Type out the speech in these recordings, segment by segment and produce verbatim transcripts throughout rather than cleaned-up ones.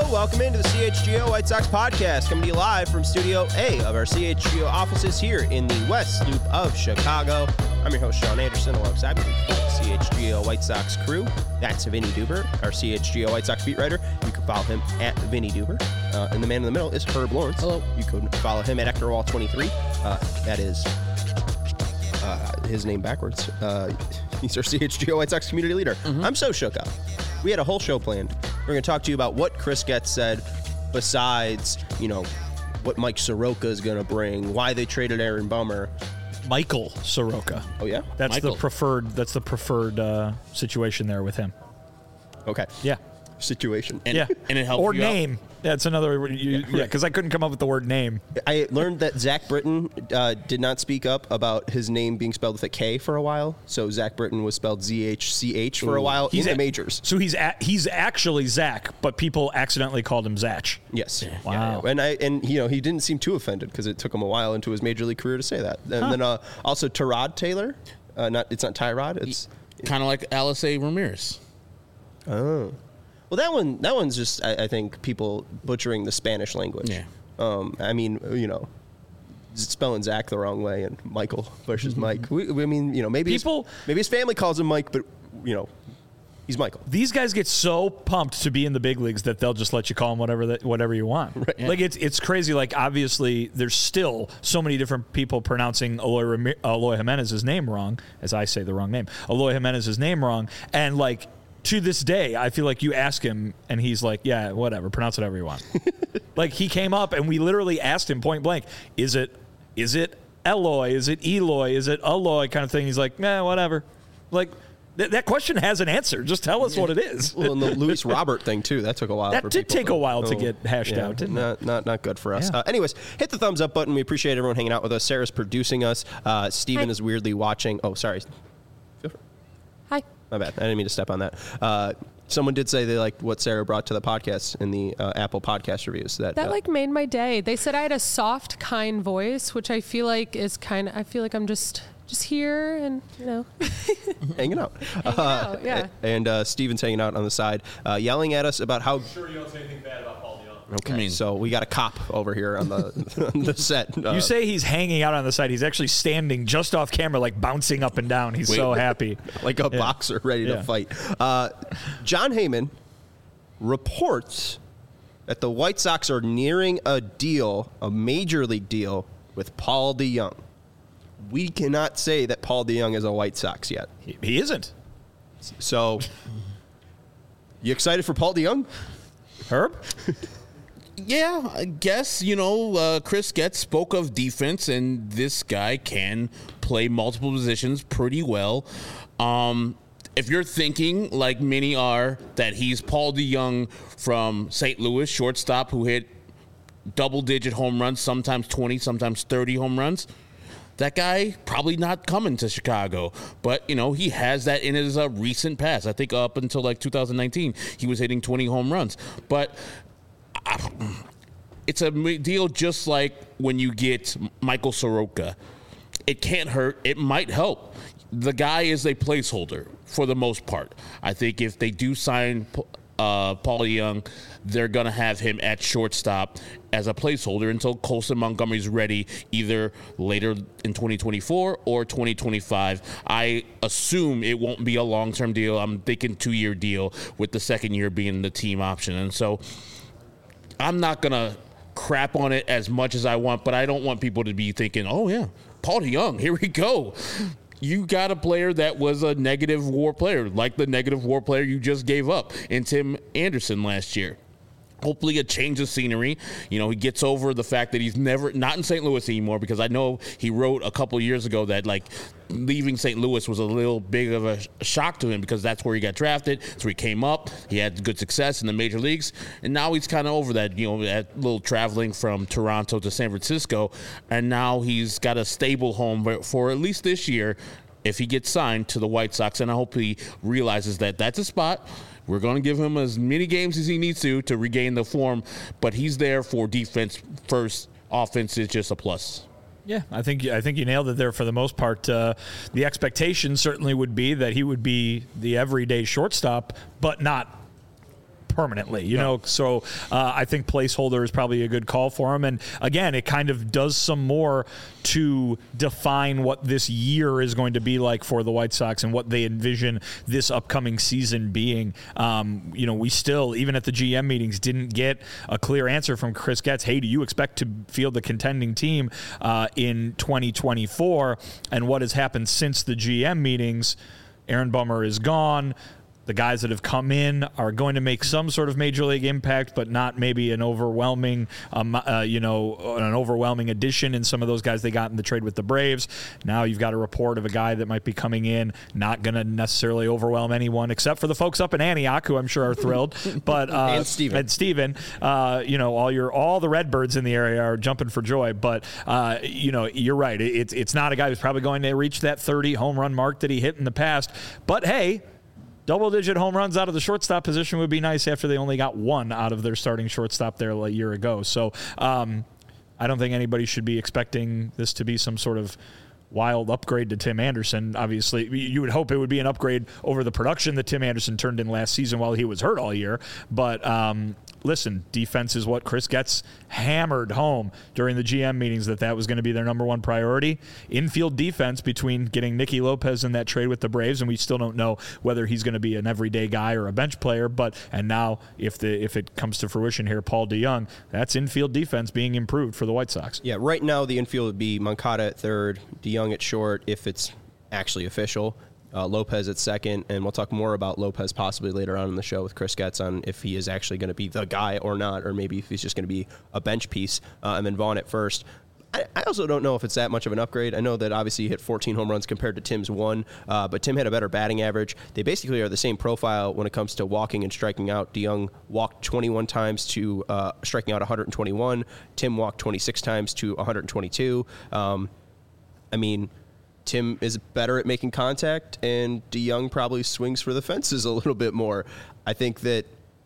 Welcome into the C H G O White Sox podcast, coming to you live from Studio A of our C H G O offices here in the West Loop of Chicago. I'm your host, Sean Anderson, alongside me, the C H G O White Sox crew. That's Vinny Duber, our C H G O White Sox beat writer. You can follow him at Vinny Duber. Uh, and the man in the middle is Herb Lawrence. Hello. You can follow him at Hector Wall twenty-three. Uh, that is uh, his name backwards. Uh, he's our C H G O White Sox community leader. Mm-hmm. I'm so shook up. We had a whole show planned. We're going to talk to you about what Chris Getz said besides, you know, what Mike Soroka is going to bring, why they traded Aaron Bummer. Michael Soroka. Oh, yeah? That's Michael. the preferred That's the preferred uh, situation there with him. Okay. Yeah. Situation. And, yeah. and it helps Or you name. out. That's another, you, yeah, because I couldn't come up with the word name. I learned that Zach Britton uh, did not speak up about his name being spelled with a K for a while. So Zach Britton was spelled Z H C H for a while He's in a- the majors. So he's a, he's actually Zach, but people accidentally called him Zach. Yes. Wow. Yeah, yeah. And I and you know he didn't seem too offended because it took him a while into his major league career to say that. And Huh. then uh, also Tyrod Taylor, uh, not it's not Tyrod. It's Kind of like Alice A. Ramirez. oh. Well, that one, that one's just, I, I think, people butchering the Spanish language. Yeah. Um, I mean, you know, spelling Zach the wrong way and Michael versus Mike. We, we- I mean, you know, maybe People- his, maybe his family calls him Mike, but you know, he's Michael. These guys get so pumped to be in the big leagues that they'll just let you call them whatever that, whatever you want. Right. Like it's it's crazy. Like obviously, there's still so many different people pronouncing Eloy, Rami- Eloy Jimenez's name wrong, as I say the wrong name. Eloy Jimenez's name wrong, and like to this day, I feel like you ask him and he's like, "Yeah, whatever, pronounce it however you want." Like he came up and we literally asked him point blank, "Is it is it Eloy? Is it Eloy? Is it Eloy?" kind of thing. He's like, "Nah, whatever." Like. Th- that question has an answer. Just tell us what it is. Well, and the Luis Robert thing too. That took a while. That for did people take to- a while to oh, get hashed yeah, out, didn't it? not, Not not good for us. Yeah. Uh, anyways, hit the thumbs up button. We appreciate everyone hanging out with us. Sarah's producing us. Uh, Steven Hi. is weirdly watching. Oh, sorry. Hi. My bad. I didn't mean to step on that. Uh, someone did say they liked what Sarah brought to the podcast in the uh, Apple podcast reviews. That, That uh, like made my day. They said I had a soft, kind voice, which I feel like is kind of. I feel like I'm just just here and you know. hanging out. Hanging out, yeah. And uh, Steven's hanging out on the side, uh, yelling at us about how. Sure, you don't say anything bad about Paul DeJong. Okay, I mean- so we got a cop over here on the on the set. Uh, You say he's hanging out on the side. He's actually standing just off camera, like bouncing up and down. He's Wait. so happy. like a Yeah. boxer ready to Yeah. fight. Uh, John Heyman reports that the White Sox are nearing a deal, a major league deal, with Paul DeJong. We cannot say that Paul DeJong is a White Sox yet. He, he isn't. So, you excited for Paul DeJong? Herb? Yeah, I guess, you know, uh, Chris Getz spoke of defense, and this guy can play multiple positions pretty well. Um, if you're thinking, like many are, that he's Paul DeJong from Saint Louis, shortstop who hit double-digit home runs, sometimes twenty, sometimes thirty home runs, that guy probably not coming to Chicago. But, you know, he has that in his uh, recent past. I think up until, like, two thousand nineteen, he was hitting twenty home runs. But it's a deal just like when you get Michael Soroka. It can't hurt. It might help. The guy is a placeholder for the most part. I think if they do sign uh, Paul DeJong, they're going to have him at shortstop as a placeholder until Colson Montgomery's ready, either later in twenty twenty-four or twenty twenty-five. I assume it won't be a long-term deal. I'm thinking two-year deal with the second year being the team option. And so I'm not going to crap on it as much as I want, but I don't want people to be thinking, oh, yeah, Paul DeJong, here we go. You got a player that was a negative WAR player, like the negative WAR player you just gave up in Tim Anderson last year. Hopefully a change of scenery. You know, he gets over the fact that he's never, not in Saint Louis anymore, because I know he wrote a couple years ago that, like, leaving Saint Louis was a little big of a shock to him because that's where he got drafted. That's where he came up. He had good success in the major leagues. And now he's kind of over that, you know, that little traveling from Toronto to San Francisco. And now he's got a stable home for at least this year if he gets signed to the White Sox. And I hope he realizes that that's a spot. We're going to give him as many games as he needs to to regain the form, but he's there for defense first. Offense is just a plus. Yeah, I think I think you nailed it there for the most part. Uh, the expectation certainly would be that he would be the everyday shortstop, but not permanently, you know. So uh, I think placeholder is probably a good call for him. And again, it kind of does some more to define what this year is going to be like for the White Sox and what they envision this upcoming season being. Um, you know, we still, even at the G M meetings, didn't get a clear answer from Chris Getz. Hey, do you expect to field the contending team uh, in twenty twenty-four? And what has happened since the G M meetings? Aaron Bummer is gone. The guys that have come in are going to make some sort of major league impact, but not maybe an overwhelming, um, uh, you know, an overwhelming addition in some of those guys they got in the trade with the Braves. Now you've got a report of a guy that might be coming in, not going to necessarily overwhelm anyone, except for the folks up in Antioch, who I'm sure are thrilled. But uh, and Steven, and Steven, uh, you know, all your all the Redbirds in the area are jumping for joy. But uh, you know, you're right. It's it's not a guy who's probably going to reach that thirty home run mark that he hit in the past. But hey, double-digit home runs out of the shortstop position would be nice after they only got one out of their starting shortstop there a year ago. So um, I don't think anybody should be expecting this to be some sort of wild upgrade to Tim Anderson. Obviously, you would hope it would be an upgrade over the production that Tim Anderson turned in last season while he was hurt all year. But um, listen, defense is what Chris Getz hammered home during the G M meetings, that that was going to be their number one priority. Infield defense, between getting Nicky Lopez in that trade with the Braves, and we still don't know whether he's going to be an everyday guy or a bench player. But and now, if the if it comes to fruition here, Paul DeJong, that's infield defense being improved for the White Sox. Yeah, right now the infield would be Moncada at third, DeJong at short if it's actually official, uh, Lopez at second, and we'll talk more about Lopez possibly later on in the show with Chris Getz on if he is actually going to be the guy or not, or maybe if he's just going to be a bench piece, uh, and then Vaughn at first. I, I also don't know if it's that much of an upgrade. I know that obviously he hit fourteen home runs compared to Tim's one, uh, but Tim had a better batting average. They basically are the same profile when it comes to walking and striking out. DeJong walked twenty-one times to uh, striking out one hundred twenty-one. Tim walked twenty-six times to one hundred twenty-two. Um, I mean, Tim is better at making contact, and DeJong probably swings for the fences a little bit more. I think that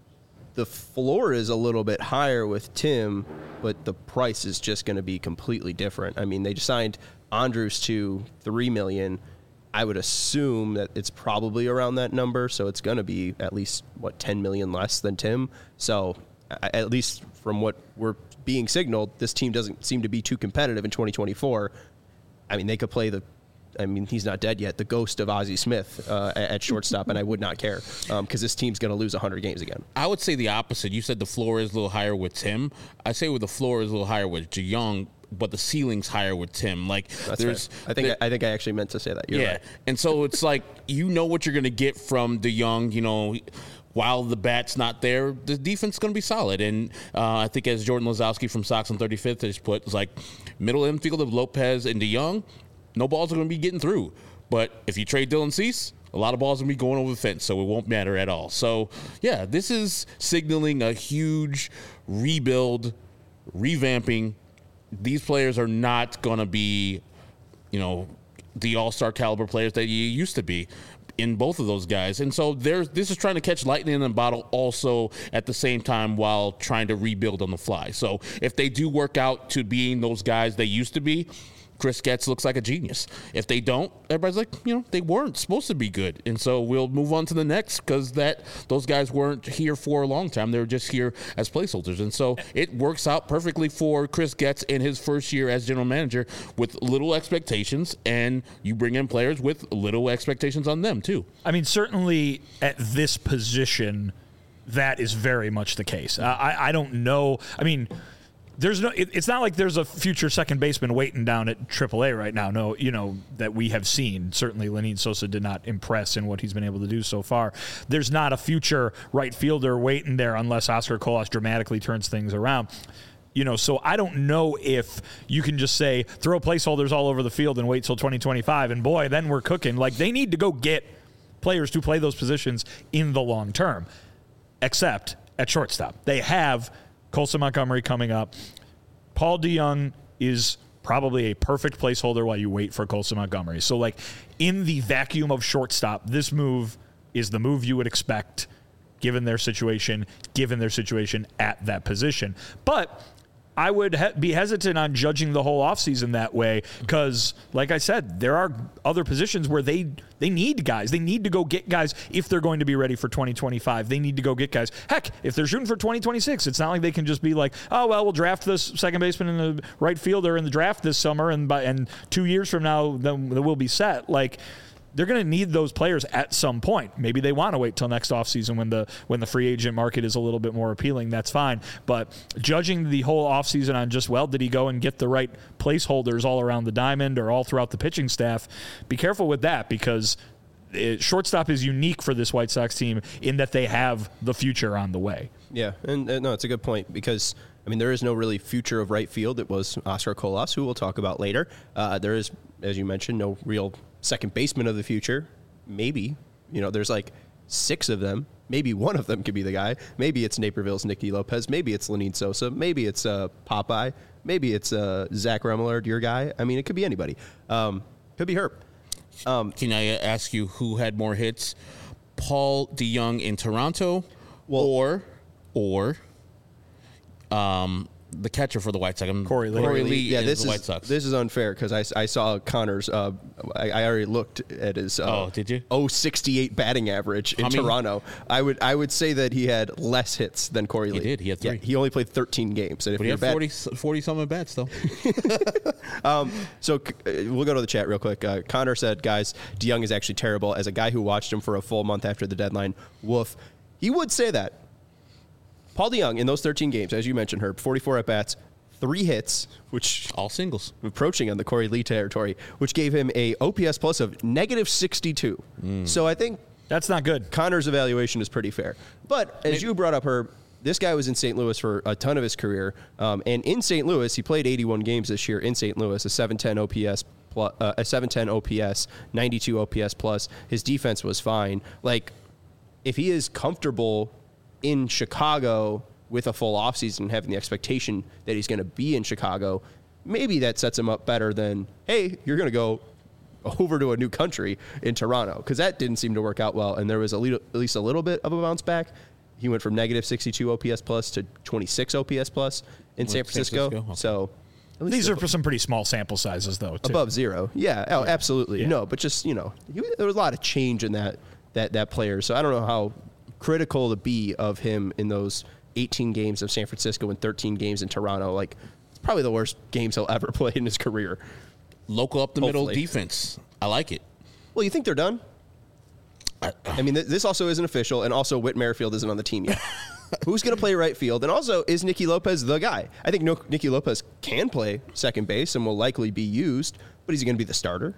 the floor is a little bit higher with Tim, but the price is just going to be completely different. I mean, they just signed Andrus to three million dollars. I would assume that it's probably around that number, so it's going to be at least, what, ten million dollars less than Tim. So at least from what we're being signaled, this team doesn't seem to be too competitive in twenty twenty-four. I mean, they could play the, I mean, he's not dead yet, the ghost of Ozzie Smith uh, at shortstop, and I would not care because um, this team's going to lose one hundred games again. I would say the opposite. You said the floor is a little higher with Tim. I say with the floor is a little higher with DeJong, but the ceiling's higher with Tim. Like, That's there's, fair. I think there, I, I think I actually meant to say that. You're yeah, right. And so it's like, you know what you're going to get from DeJong, you know. While the bat's not there, the defense is going to be solid. And uh, I think, as Jordan Lazowski from Sox on thirty-fifth has put, it's like middle infield of Lopez and DeJong, no balls are going to be getting through. But if you trade Dylan Cease, a lot of balls are going to be going over the fence, so it won't matter at all. So, yeah, this is signaling a huge rebuild, revamping. These players are not going to be, you know, the all-star caliber players that you used to be in both of those guys. And so there's this is trying to catch lightning in a bottle also at the same time while trying to rebuild on the fly. So if they do work out to being those guys they used to be, Chris Getz looks like a genius. If they don't, everybody's like, you know, they weren't supposed to be good. And so we'll move on to the next, because that those guys weren't here for a long time. They were just here as placeholders. And so it works out perfectly for Chris Getz in his first year as general manager with little expectations, and you bring in players with little expectations on them too. I mean, certainly at this position, that is very much the case. Uh, I, I don't know. I mean, There's no. It, it's not like there's a future second baseman waiting down at triple A right now. No, you know, that we have seen. Certainly, Lenyn Sosa did not impress in what he's been able to do so far. There's not a future right fielder waiting there unless Oscar Colas dramatically turns things around. You know, so I don't know if you can just say throw placeholders all over the field and wait till twenty twenty-five, and boy, then we're cooking. Like, they need to go get players to play those positions in the long term. Except at shortstop, they have Colson Montgomery coming up. Paul DeJong is probably a perfect placeholder while you wait for Colson Montgomery. So, like, in the vacuum of shortstop, this move is the move you would expect given their situation, given their situation at that position. But I would he- be hesitant on judging the whole offseason that way because, like I said, there are other positions where they they need guys. They need to go get guys if they're going to be ready for twenty twenty-five. They need to go get guys. Heck, if they're shooting for twenty twenty-six, it's not like they can just be like, oh, well, we'll draft this second baseman and the right fielder in the draft this summer, and by and two years from now, then we'll be set. Like, they're going to need those players at some point. Maybe they want to wait till next offseason when the when the free agent market is a little bit more appealing. That's fine. But judging the whole offseason on just, well, did he go and get the right placeholders all around the diamond or all throughout the pitching staff, be careful with that because it, shortstop is unique for this White Sox team in that they have the future on the way. Yeah, and uh, no, it's a good point because, I mean, there is no really future of right field. It was Oscar Colas, who we'll talk about later. Uh, there is, as you mentioned, no real second baseman of the future. Maybe, you know, there's like six of them. Maybe one of them could be the guy. Maybe it's Naperville's Nicky Lopez. Maybe it's Lenyn Sosa. Maybe it's uh, Popeye. Maybe it's uh, Zach Remillard, your guy. I mean, it could be anybody. Um, could be Herb. Um, Can I ask you who had more hits? Paul DeJong in Toronto well, or or um, the catcher for the White Sox, Corey Lee. Corey Lee yeah, in this the is White Sox. this is unfair because I, I saw Connor's. Uh, I, I already looked at his. Uh, oh, did you? oh sixty-eight batting average in How many? Toronto. I would I would say that he had less hits than Corey Lee. He did. He had three. Yeah, he only played thirteen games. And if But he you're had bad, forty, forty something bats though. um, so uh, we'll go to the chat real quick. Uh, Connor said, "Guys, DeJong is actually terrible." As a guy who watched him for a full month after the deadline, woof. He would say that. Paul DeJong in those thirteen games, as you mentioned, Herb, forty-four at bats. Three hits, which all singles, approaching on the Corey Lee territory, which gave him a O P S plus of negative sixty-two. Mm. So I think that's not good. Connor's evaluation is pretty fair. But as Maybe. you brought up, Herb, this guy was in Saint Louis for a ton of his career, um, and in Saint Louis, he played eighty-one games this year in Saint Louis, a seven ten O P S plus, uh, a seven ten O P S, ninety-two O P S plus. His defense was fine. Like, if he is comfortable in Chicago with a full offseason, having the expectation that he's going to be in Chicago, maybe that sets him up better than, hey, you're going to go over to a new country in Toronto, because that didn't seem to work out well, and there was a little, at least a little bit of a bounce back. He went from negative sixty-two O P S plus to twenty-six O P S plus in San Francisco. San Francisco? Okay. So at least these are for some pretty small sample sizes, though. Too. Above zero, yeah, oh, absolutely. Yeah. No, but just, you know, he, there was a lot of change in that that that player. So I don't know how critical to be of him in those eighteen games of San Francisco and thirteen games in Toronto. Like, it's probably the worst games he'll ever play in his career. Local up the Hopefully. middle defense. I like it. Well, you think they're done? I, I mean, th- this also isn't official, and also Whit Merrifield isn't on the team yet. Who's going to play right field? And also, is Nicky Lopez the guy? I think no, Nicky Lopez can play second base and will likely be used, but is he going to be the starter?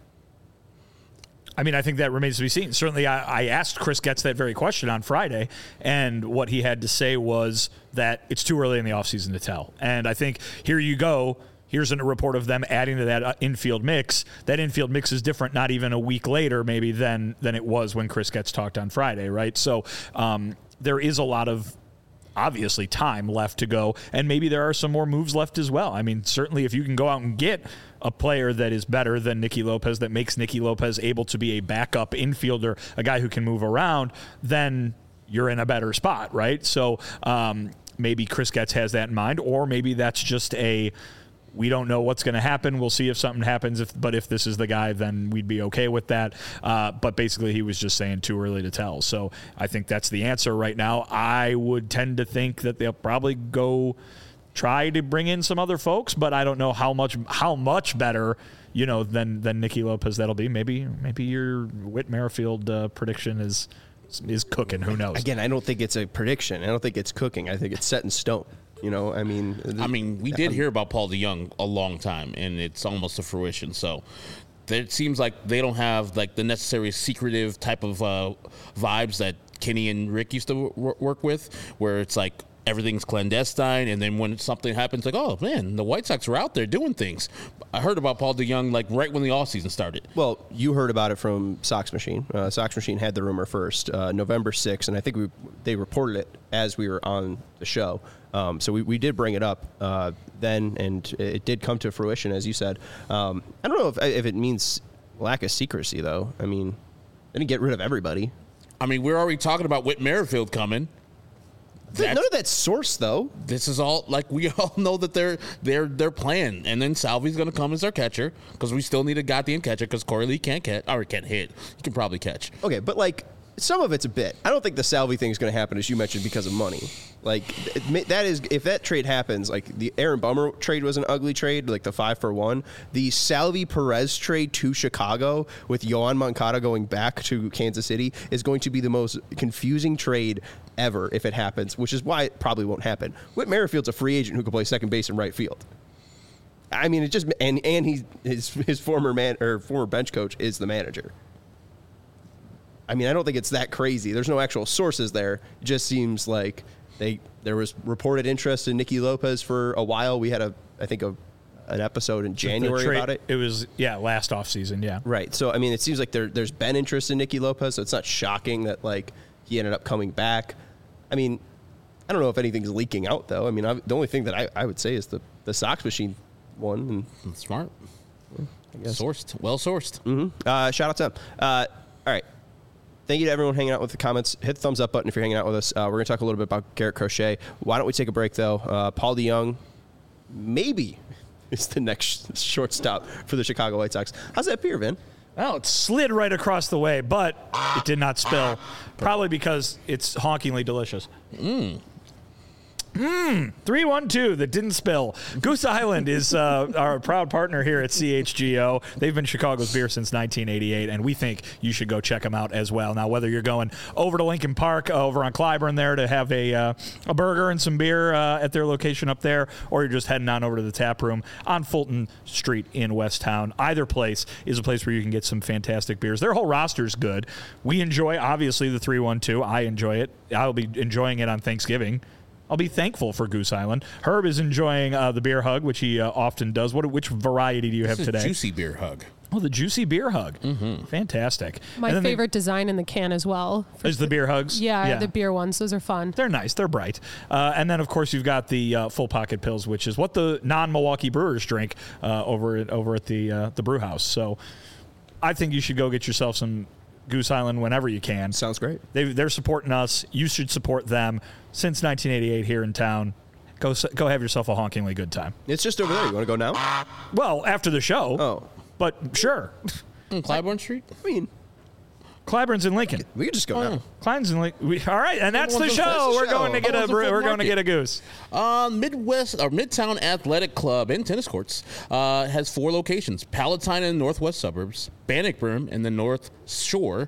I mean, I think that remains to be seen. Certainly, I, I asked Chris Getz that very question on Friday, and what he had to say was that it's too early in the offseason to tell. And I think here you go. Here's a report of them adding to that infield mix. That infield mix is different not even a week later maybe than than it was when Chris Getz talked on Friday, right? So um, there is a lot of obviously time left to go, and maybe there are some more moves left as well. I mean, certainly if you can go out and get a player that is better than Nicky Lopez, that makes Nicky Lopez able to be a backup infielder, a guy who can move around, then you're in a better spot, right? So um, maybe Chris Getz has that in mind, or maybe that's just a, we don't know what's going to happen. We'll see if something happens. If, but if this is the guy, then we'd be okay with that. Uh, but basically, he was just saying too early to tell. So I think that's the answer right now. I would tend to think that they'll probably go try to bring in some other folks, but I don't know how much how much better, you know, than than Nicky Lopez that'll be. Maybe maybe your Whit Merrifield uh, prediction is is cooking. Who knows? Again, I don't think it's a prediction. I don't think it's cooking. I think it's set in stone. You know, I mean, I mean, we did hear about Paul DeJong a long time, and it's almost to fruition. So it seems like they don't have like the necessary secretive type of uh, vibes that Kenny and Rick used to w- work with, where it's like everything's clandestine, and then when something happens, like, oh man, the White Sox are out there doing things. I heard about Paul DeJong like right when the offseason started. Well, you heard about it from Sox Machine. Uh, Sox Machine had the rumor first, uh, November sixth, and I think we they reported it as we were on the show. Um, so we, we did bring it up uh, then, and it did come to fruition, as you said. Um, I don't know if if it means lack of secrecy, though. I mean, they didn't get rid of everybody. I mean, we're already talking about Whit Merrifield coming. That's, None of that's sourced, though. this is all like we all know that they're they're they're playing, and then Salvi's going to come as their catcher because we still need a goddamn catcher because Corey Lee can't catch or can't hit. He can probably catch. Okay, but like some of it's a bit. I don't think the Salvi thing is going to happen, as you mentioned, because of money. Like it, that is, if that trade happens, like the Aaron Bummer trade was an ugly trade, like the five for one. The Salvi Perez trade to Chicago with Yohan Moncada going back to Kansas City is going to be the most confusing trade ever if it happens, which is why it probably won't happen. Whit Merrifield's a free agent who can play second base and right field. I mean, it just and and he his his former man or former bench coach is the manager. I mean, I don't think it's that crazy. There's no actual sources there. It just seems like they there was reported interest in Nicky Lopez for a while. We had a I think a an episode in January trade, about it. It was yeah, last offseason, yeah. Right. So I mean, it seems like there there's been interest in Nicky Lopez. So it's not shocking that like he ended up coming back. I mean, I don't know if anything's leaking out though. I mean, I, the only thing that I, I would say is the the Sox machine one. And, Smart. I guess. Sourced. Well sourced. Mm-hmm. Uh, shout out to them. Uh, all right. Thank you to everyone hanging out with the comments. Hit the thumbs up button if you're hanging out with us. Uh, we're going to talk a little bit about Garrett Crochet. Why don't we take a break, though? Uh, Paul DeJong, maybe, is the next shortstop for the Chicago White Sox. How's that beer, Vin? Well, it slid right across the way, but it did not spill. Probably because it's honkingly delicious. Mmm. Mmm. three one two that didn't spill. Goose Island is uh, our proud partner here at C H G O. They've been Chicago's beer since nineteen eighty-eight, and we think you should go check them out as well. Now, whether you're going over to Lincoln Park, uh, over on Clyburn there to have a uh, a burger and some beer uh, at their location up there, or you're just heading on over to the tap room on Fulton Street in Westtown, either place is a place where you can get some fantastic beers. Their whole roster's good. We enjoy, obviously, the three one two. I enjoy it. I'll be enjoying it on Thanksgiving. I'll be thankful for Goose Island. Herb is enjoying uh, the beer hug, which he uh, often does. What? Which variety do you have This is today? Juicy beer hug. Oh, the juicy beer hug. Mm-hmm. Fantastic. My And then favorite design in the can as well. the, is the beer hugs. Yeah, the beer ones. Those are fun. They're nice. They're bright. Uh, and then, of course, you've got the uh, full pocket pills, which is what the non-Milwaukee Brewers drink uh, over at over at the uh, the brew house. So, I think you should go get yourself some Goose Island whenever you can. Sounds great. They, they're supporting us. You should support them. Since nineteen eighty-eight here in town, go go have yourself a honkingly good time. It's just over there. You want to go now? Well, after the show. Oh. But sure. Mm, Clybourne Street? I mean, Clyburn's in Lincoln. we could just go now. Klein's in Lincoln. We, all right, and that's the That's the show. We're show. going to get Oh, a it's a brew- full we're going to market. get a goose. Uh, Midwest or Midtown Athletic Club and tennis courts uh, has four locations: Palatine in the northwest suburbs, Bannockburn in the north shore,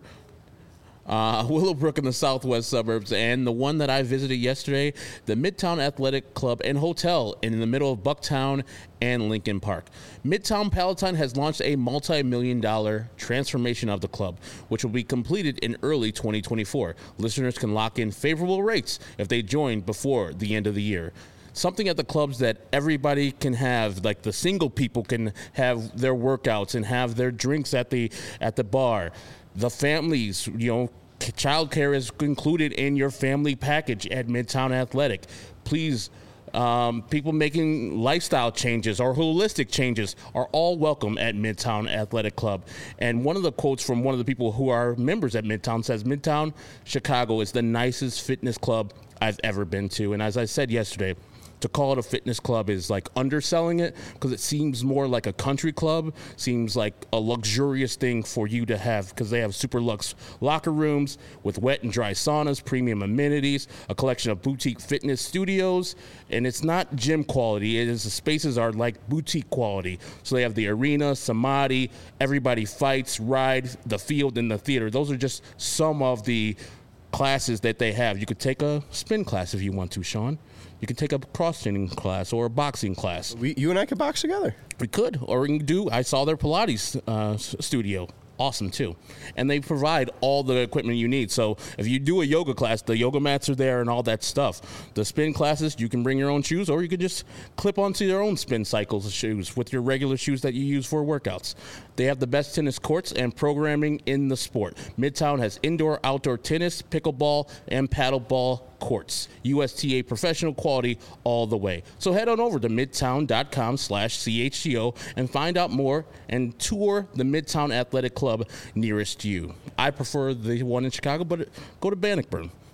uh, Willowbrook in the southwest suburbs, and the one that I visited yesterday, the Midtown Athletic Club and Hotel in the middle of Bucktown and Lincoln Park. Midtown Palatine has launched a multi-million dollar transformation of the club, which will be completed in early twenty twenty-four. Listeners can lock in favorable rates if they join before the end of the year. Something at the clubs that everybody can have, like the single people can have their workouts and have their drinks at the at the bar. The families, you know, childcare is included in your family package at Midtown Athletic. Please, um, people making lifestyle changes or holistic changes are all welcome at Midtown Athletic Club. And one of the quotes from one of the people who are members at Midtown says, Midtown Chicago is the nicest fitness club I've ever been to. And as I said yesterday, to call it a fitness club is like underselling it because it seems more like a country club, seems like a luxurious thing for you to have because they have super luxe locker rooms with wet and dry saunas, premium amenities, a collection of boutique fitness studios, and it's not gym quality. It is the spaces are like boutique quality. So they have the arena, samadhi, everybody fights, ride, the field, and the theater. Those are just some of the classes that they have. You could take a spin class if you want to, Sean. You can take a cross-training class or a boxing class. We, you and I could box together. We could, or we can do. I saw their Pilates uh, s- studio. Awesome too, and they provide all the equipment you need. So if you do a yoga class, the yoga mats are there and all that stuff. The spin classes, you can bring your own shoes, or you can just clip onto your own spin cycles shoes with your regular shoes that you use for workouts. They have the best tennis courts and programming in the sport. Midtown has indoor, outdoor tennis, pickleball, and paddleball courts. U S T A professional quality all the way. So head on over to midtown.com slash CHGO and find out more and tour the Midtown Athletic Club nearest you. I prefer the one in Chicago, but go to Bannockburn.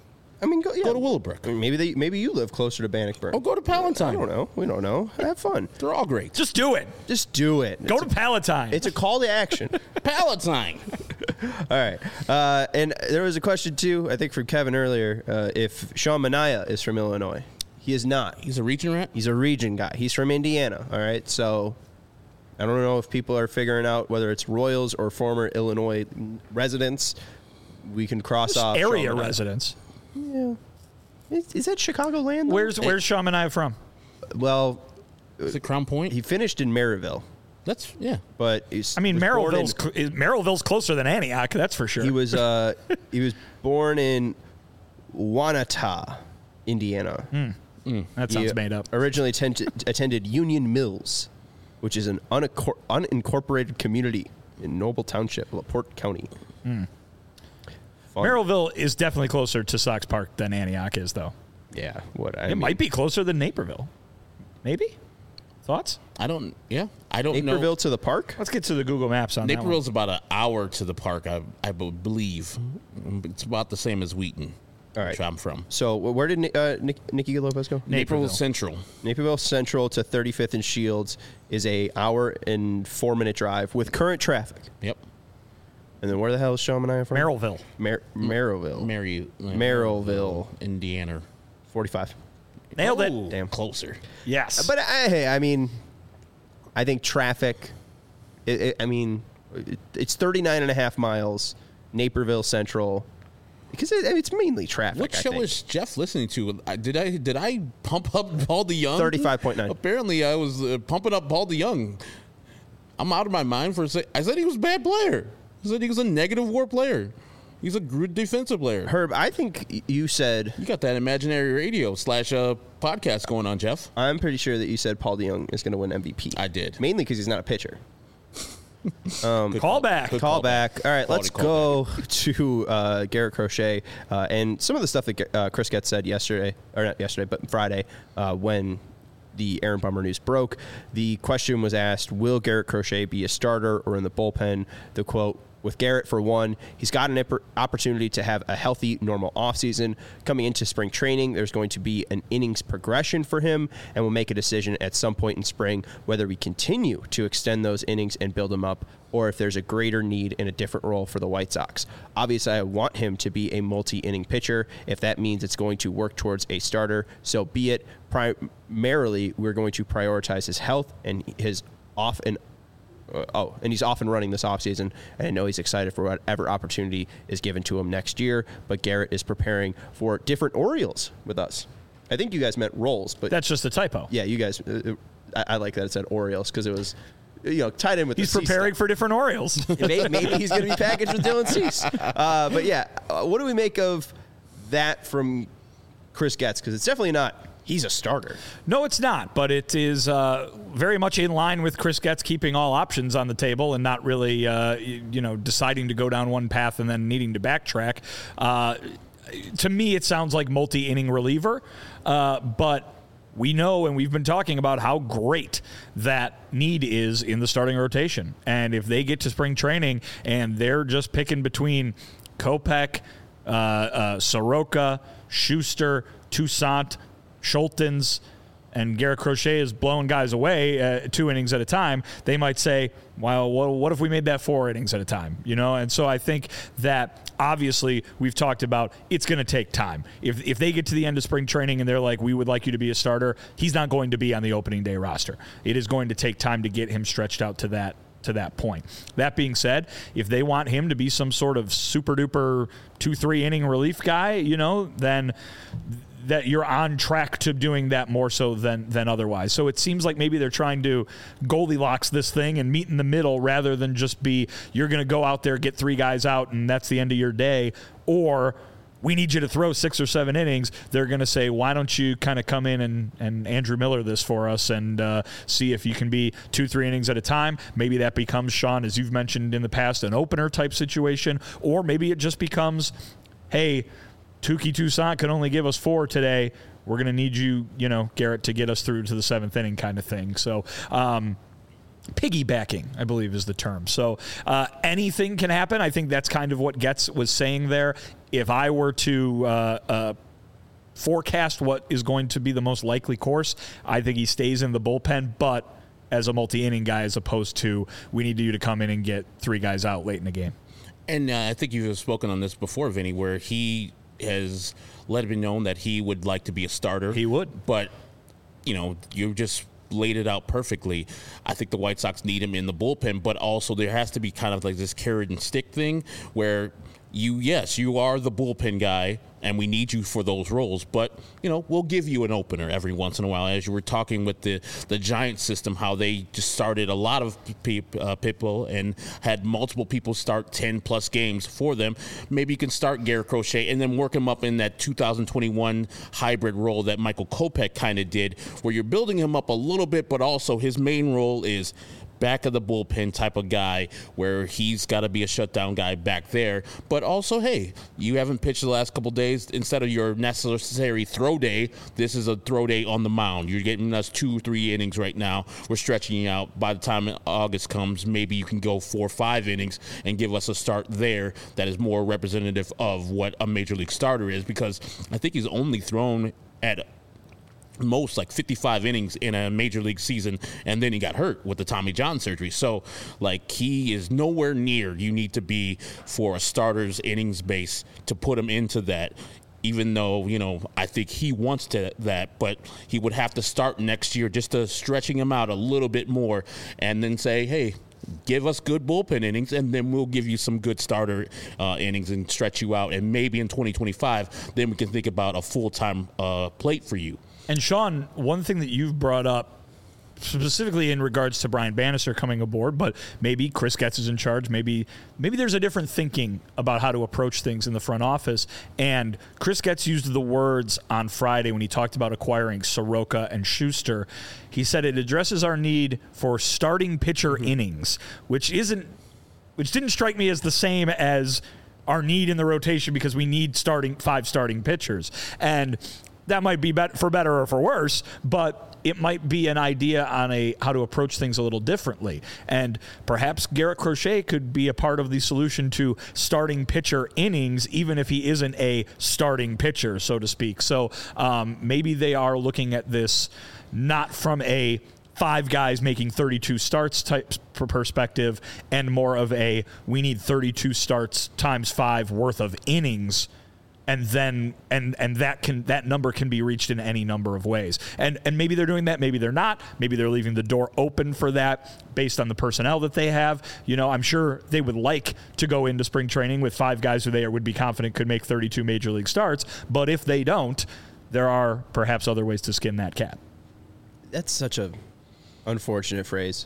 I mean, go, yeah. Go to Willowbrook. I mean, maybe they, maybe you live closer to Bannockburn. Oh, go to Palatine. I don't know. We don't know. Have fun. They're all great. Just do it. Just do it. Go It's to a, Palatine. It's a call to action. Palatine. All right. Uh, and there was a question, too, I think from Kevin earlier, uh, if Sean Manaea is from Illinois. He is not. He's a region rat? He's a region guy. He's from Indiana. All right. So I don't know if people are figuring out whether it's Royals or former Illinois residents. We can cross Just off area Sean Manaea. residents. Yeah. Is, is that Chicagoland? though? Where's Where's Sean Manaea from? Well, Is it Crown Point? he finished in Maryville, That's, yeah. but he's, I mean, was born in- Merrillville's cl- is- Merrillville's closer than Antioch. That's for sure. He was uh, he was born in Wanata, Indiana. that sounds He made up. Originally attended, attended Union Mills, which is an unaccor- unincorporated community in Noble Township, LaPorte County. Fun. Merrillville is definitely closer to Sox Park than Antioch is, though. Yeah, what I It mean, might be closer than Naperville. Maybe? Thoughts? I don't, yeah. I don't Naperville know. to the park. Let's get to the Google Maps on that one. Naperville's about an hour to the park, I, I believe. It's about the same as Wheaton, All right. which I'm from. So wh- where did Ni- uh, Nick, Nicky Lopez go? Naperville Naperville. Central. Naperville Central to thirty-fifth and Shields is a hour and four minute drive with current traffic. Yep. And then where the hell is Sean Manaea from? Merrillville. Mar- Maryville. Mary, Merrillville. Indiana. forty-five. Nailed it. Oh, Damn. closer. Yes. But I, hey, I mean, I think traffic. It, it, I mean, it, it's thirty-nine and a half miles, Naperville Central, because it, it's mainly traffic. What I show think. is Jeff listening to? I- Did I did I pump up Paul DeYoung? thirty-five point nine. Apparently, I was uh, pumping up Paul DeYoung. I'm out of my mind for a sec. I said he was a bad player. I said he was a negative WAR player. He's a good defensive player. Herb? I think you said. You got that imaginary radio slash uh, podcast going on, Jeff. I'm pretty sure that you said Paul DeYoung is going to win M V P. I did. Mainly because he's not a pitcher. Call back. Good Call back. All right, Quality let's call go to uh, Garrett Crochet uh, and some of the stuff that uh, Chris Getz said yesterday, or not yesterday, but Friday uh, when the Aaron Bummer news broke. The question was asked, will Garrett Crochet be a starter or in the bullpen? The quote, with Garrett, for one, he's got an oppor- opportunity to have a healthy, normal offseason. Coming into spring training, there's going to be an innings progression for him, and we'll make a decision at some point in spring whether we continue to extend those innings and build him up, or if there's a greater need in a different role for the White Sox. Obviously, I want him to be a multi-inning pitcher. If that means it's going to work towards a starter, so be it. Primarily, we're going to prioritize his health and his off and Uh, oh, and he's off and running this offseason, and I know he's excited for whatever opportunity is given to him next year, but Garrett is preparing for different Orioles with us. I think you guys meant roles, but That's just a typo. yeah, you guys, uh, I, I like that it said Orioles because it was, you know, tied in with He's the Cease preparing stuff. for different Orioles. maybe, maybe he's going to be packaged with Dylan Cease. Uh, but yeah, uh, what do we make of that from Chris Getz? Because it's definitely not, he's a starter. No, it's not, but it is uh, very much in line with Chris Getz keeping all options on the table and not really, uh, you, you know, deciding to go down one path and then needing to backtrack. Uh, to me, it sounds like multi-inning reliever, uh, but we know and we've been talking about how great that need is in the starting rotation. And if they get to spring training and they're just picking between Kopech, uh, uh, Soroka, Schuster, Toussaint, Schultens, and Garrett Crochet is blowing guys away uh, two innings at a time, they might say, well, what, what if we made that four innings at a time? You know, and so I think that obviously we've talked about it's going to take time. If if they get to the end of spring training and they're like, we would like you to be a starter, he's not going to be on the opening day roster. It is going to take time to get him stretched out to that to that point. That being said, if they want him to be some sort of super duper two, three inning relief guy, you know, then that you're on track to doing that more so than than otherwise. So it seems like maybe they're trying to Goldilocks this thing and meet in the middle rather than just be, you're going to go out there, get three guys out, and that's the end of your day, or we need you to throw six or seven innings. They're going to say, why don't you kind of come in and, and Andrew Miller this for us and uh, see if you can be two, three innings at a time. Maybe that becomes, Sean, as you've mentioned in the past, an opener type situation, or maybe it just becomes, hey, Touki Toussaint can only give us four today. We're going to need you, you know, Garrett, to get us through to the seventh inning kind of thing. So, um, piggybacking, I believe, is the term. So uh, anything can happen. I think that's kind of what Getz was saying there. If I were to uh, uh, forecast what is going to be the most likely course, I think he stays in the bullpen, but as a multi-inning guy as opposed to we need you to come in and get three guys out late in the game. And uh, I think you've spoken on this before, Vinny, where he has let it be known that he would like to be a starter. He would. But, you know, you just laid it out perfectly. I think the White Sox need him in the bullpen, but also there has to be kind of like this carrot and stick thing where you, yes, you are the bullpen guy, and we need you for those roles. But, you know, we'll give you an opener every once in a while. As you were talking with the, the Giants system, how they just started a lot of pe- uh, people and had multiple people start ten-plus games for them. Maybe you can start Garrett Crochet and then work him up in that two thousand twenty-one hybrid role that Michael Kopech kind of did, where you're building him up a little bit, but also his main role is back of the bullpen type of guy where he's got to be a shutdown guy back there. But also, hey, you haven't pitched the last couple days. Instead of your necessary throw day, this is a throw day on the mound. You're getting us two, three innings right now. We're stretching you out. By the time August comes, maybe you can go four or five innings and give us a start there that is more representative of what a major league starter is, because I think he's only thrown at most like fifty-five innings in a major league season, and then he got hurt with the Tommy John surgery. So like he is nowhere near you need to be for a starter's innings base to put him into that, even though, you know, I think he wants to that, but he would have to start next year just to stretching him out a little bit more and then say, hey, give us good bullpen innings, and then we'll give you some good starter uh, innings and stretch you out. And maybe in twenty twenty-five, then we can think about a full-time uh, plate for you. And Sean, one thing that you've brought up specifically in regards to Brian Bannister coming aboard, but maybe Chris Getz is in charge. Maybe maybe there's a different thinking about how to approach things in the front office. And Chris Getz used the words on Friday when he talked about acquiring Soroka and Schuster. He said it addresses our need for starting pitcher mm-hmm. innings, which isn't, which didn't strike me as the same as our need in the rotation because we need starting five starting pitchers. And that might be bet- for better or for worse, but it might be an idea on a how to approach things a little differently. And perhaps Garrett Crochet could be a part of the solution to starting pitcher innings, even if he isn't a starting pitcher, so to speak. So um, maybe they are looking at this not from a five guys making thirty-two starts type perspective, and more of a we need thirty-two starts times five worth of innings. And then, and and that can that number can be reached in any number of ways. And and maybe they're doing that, maybe they're not. Maybe they're leaving the door open for that based on the personnel that they have. You know, I'm sure they would like to go into spring training with five guys who they would be confident could make thirty-two major league starts. But if they don't, there are perhaps other ways to skin that cat. That's such a unfortunate phrase.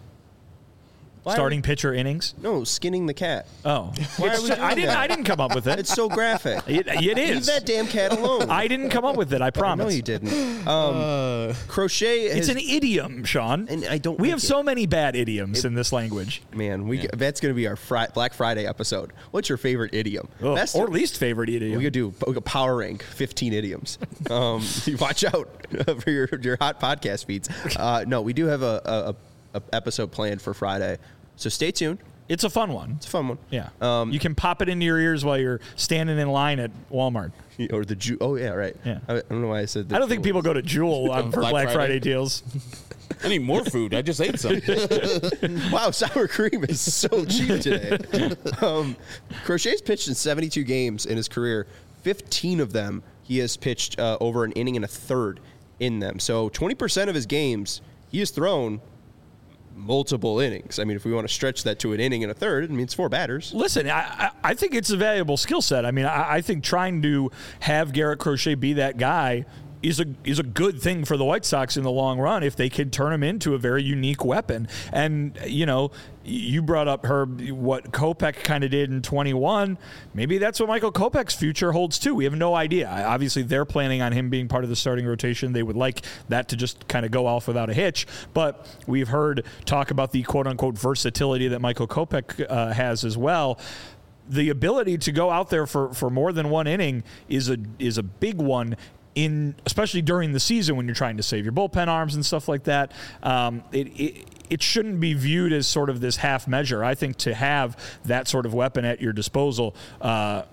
Why Starting we, pitcher innings? No, skinning the cat. Oh, Why are we doing I didn't. that? I didn't come up with it. It's so graphic. It, it is. Leave that damn cat alone. I didn't come up with it. I promise. No, you didn't. Um, uh, Crochet. Has, it's an idiom, Sean. And I don't. We like have it. so many bad idioms it, in this language. Man, we yeah. that's going to be our fri- Black Friday episode. What's your favorite idiom? Oh, Best or least favorite idiom? We could do we could power rank fifteen idioms. Um, watch out for your your hot podcast feeds. Uh, no, we do have a, a, a episode planned for Friday. So stay tuned. It's a fun one. It's a fun one. Yeah. Um, you can pop it into your ears while you're standing in line at Walmart. Or the Ju- Oh, yeah, right. Yeah. I, I don't know why I said that. I don't think people go to Jewel on, for Black Black Friday, Friday deals. I need more food. I just ate some. Wow, sour cream is so cheap today. um, Crochet's pitched in seventy-two games in his career. fifteen of them, he has pitched uh, over an inning and a third in them. So twenty percent of his games, he has thrown multiple innings. I mean, if we want to stretch that to an inning and a third, it means four batters. Listen, I, I think it's a valuable skill set. I mean, I, I think trying to have Garrett Crochet be that guy is a is a good thing for the White Sox in the long run if they could turn him into a very unique weapon. And, you know, you brought up, Herb, what Kopech kind of did in twenty-one. Maybe that's what Michael Kopech's future holds, too. We have no idea. Obviously, they're planning on him being part of the starting rotation. They would like that to just kind of go off without a hitch. But we've heard talk about the quote-unquote versatility that Michael Kopech uh, has as well. The ability to go out there for, for more than one inning is a is a big one, in especially during the season when you're trying to save your bullpen arms and stuff like that. Um, it, it it shouldn't be viewed as sort of this half measure. I think to have that sort of weapon at your disposal uh,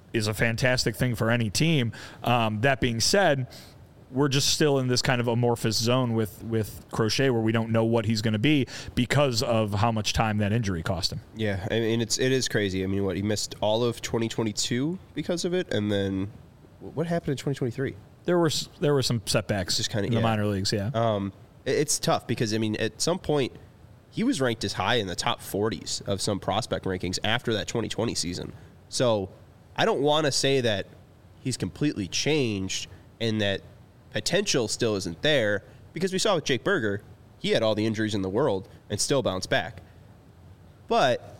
is a fantastic thing for any team. Um, that being said, we're just still in this kind of amorphous zone with, with Crochet where we don't know what he's going to be because of how much time that injury cost him. Yeah, I mean, it's, it is crazy. I mean, what, he missed all of twenty twenty-two because of it, and then what happened in twenty twenty-three? There were there were some setbacks Just kinda- in the yeah. minor leagues, yeah. Um, it- it's tough because, I mean, at some point, he was ranked as high in the top forties of some prospect rankings after that twenty twenty season. So I don't want to say that he's completely changed and that potential still isn't there, because we saw with Jake Berger, he had all the injuries in the world and still bounced back. But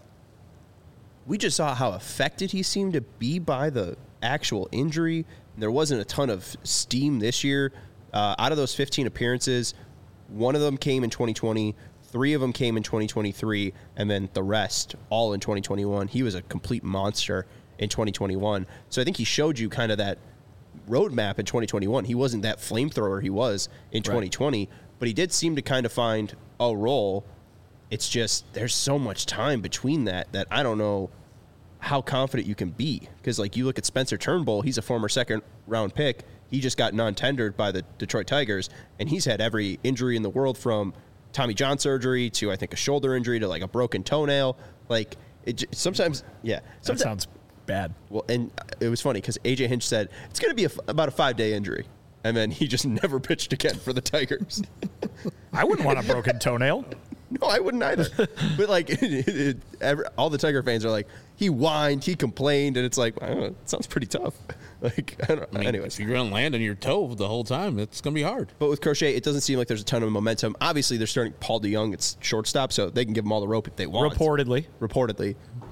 we just saw how affected he seemed to be by the actual injury. There wasn't a ton of steam this year. Uh, out of those fifteen appearances, one of them came in twenty twenty, three of them came in twenty twenty-three, and then the rest all in twenty twenty-one. He was a complete monster in twenty twenty-one. So I think he showed you kind of that roadmap in twenty twenty-one. He wasn't that flamethrower he was in twenty twenty, right, but he did seem to kind of find a role. It's just there's so much time between that that I don't know how confident you can be, because like you look at Spencer Turnbull, he's a former second round pick. He just got non-tendered by the Detroit Tigers, and he's had every injury in the world, from Tommy John surgery to I think a shoulder injury to like a broken toenail. Like it j- sometimes, yeah. That sounds bad. Well, and it was funny because A J Hinch said it's going to be a f- about a five-day injury, and then he just never pitched again for the Tigers. I wouldn't want a broken toenail. No, I wouldn't either. But like, it, it, it, every, all the Tiger fans are like, he whined, he complained, and it's like, I don't know, it sounds pretty tough. Like, I don't know. I mean, Anyways, if you're going to land on your toe the whole time, it's going to be hard. but with Crochet, it doesn't seem like there's a ton of momentum. Obviously, they're starting Paul DeYoung. It's shortstop, so they can give him all the rope if they want. Reportedly. Reportedly.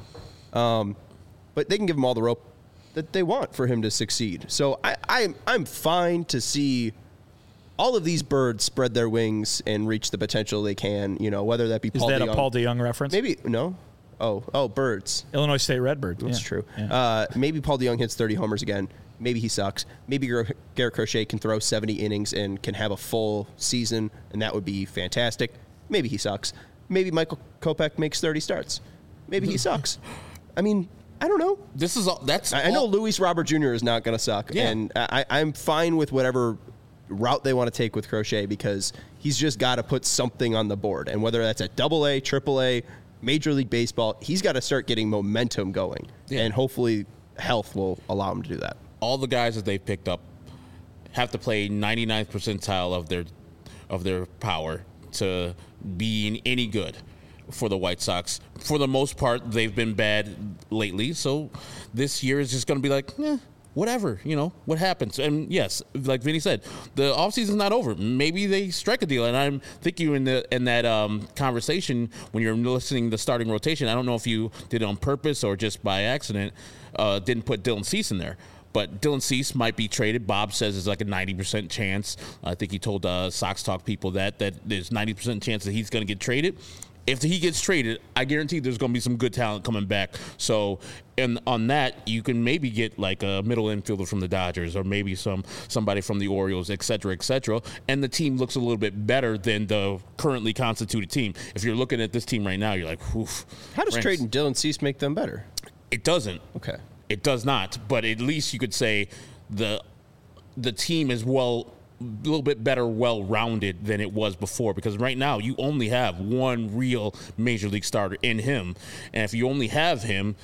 Um, but they can give him all the rope that they want for him to succeed. So I, I'm I'm fine to see all of these birds spread their wings and reach the potential they can. You know, whether that be Is Paul that DeYoung. a Paul DeYoung reference? Maybe no. Oh oh birds. Illinois State Redbird. That's yeah. true. Yeah. Uh, maybe Paul DeYoung hits thirty homers again. Maybe he sucks. Maybe Gar- Garrett Crochet can throw seventy innings and can have a full season, and that would be fantastic. Maybe he sucks. Maybe Michael Kopech makes thirty starts. Maybe he sucks. I mean, I don't know. This is all. That's. I, I know all, Luis Robert Junior is not going to suck, Yeah. and I, I'm fine with whatever route they want to take with Crochet, because he's just got to put something on the board, and whether that's at Double A, Triple A, Major League Baseball, he's got to start getting momentum going, Yeah. and hopefully health will allow him to do that. all the guys that they've picked up have to play ninety-ninth percentile of their of their power to being any good for the White Sox. For the most part, they've been bad lately, so this year is just going to be like, eh, whatever, you know, what happens. And yes, like Vinny said, the offseason's not over. Maybe they strike a deal. And I'm thinking in the in that um, conversation when you're listening to the starting rotation, I don't know if you did it on purpose or just by accident, uh, didn't put Dylan Cease in there. But Dylan Cease might be traded. Bob says it's like a ninety percent chance. I think he told uh, Sox Talk people that, that there's ninety percent chance that he's going to get traded. If he gets traded, I guarantee there's going to be some good talent coming back. So, and on that, you can maybe get like a middle infielder from the Dodgers, or maybe some somebody from the Orioles, et cetera, et cetera. And the team looks a little bit better than the currently constituted team. If you're looking at this team right now, you're like, oof. How does Ranks. trading Dylan Cease make them better? It doesn't. Okay. It does not. But at least you could say the the team is well. A little bit better, well-rounded than it was before, because right now you only have one real major league starter in him, and if you only have him,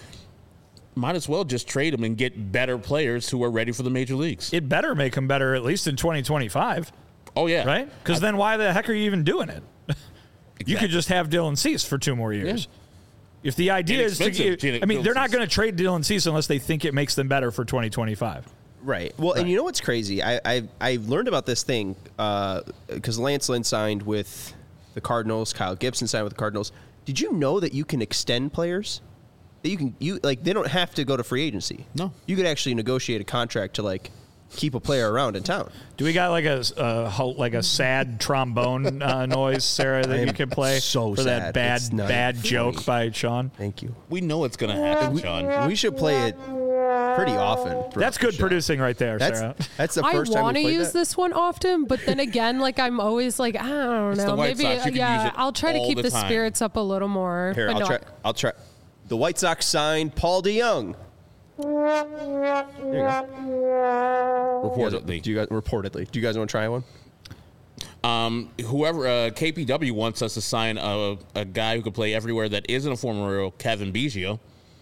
might as well just trade him and get better players who are ready for the major leagues. It better make him better at least in twenty twenty-five, Oh yeah, right? Because then why the heck are you even doing it? You could just have Dylan Cease for two more years. Yeah. If the idea is to Inexpensive, get, I mean, Dylan they're not Cease. going to trade Dylan Cease unless they think it makes them better for twenty twenty-five. Right. Well, and you know what's crazy? I I, I learned about this thing because uh, Lance Lynn signed with the Cardinals. Kyle Gibson signed with the Cardinals. Did you know that you can extend players? That you can you like they don't have to go to free agency. No. You could actually negotiate a contract to like keep a player around in town. Do we got like a uh, ho- like a sad trombone uh, noise, Sarah, that I you am can play so for that sad. bad It's not bad funny. joke by Sean? Thank you. we know it's going to happen, Sean. We should play it pretty often. throughout That's the good show. producing right there, That's Sarah. that's the I first time want we to played use that. this one often, but then again, like I'm always like, I don't It's the know, White maybe Sox. You can yeah, use it I'll try to all keep the the, time. spirits up a little more. Here, but I'll no, try. I'll try. The White Sox signed Paul DeYoung. There you go. Reportedly. Do you guys reportedly? Do you guys want to try one? Um, whoever uh, K P W wants us to sign a, a guy who could play everywhere that isn't a former Royal, Kevin Biggio.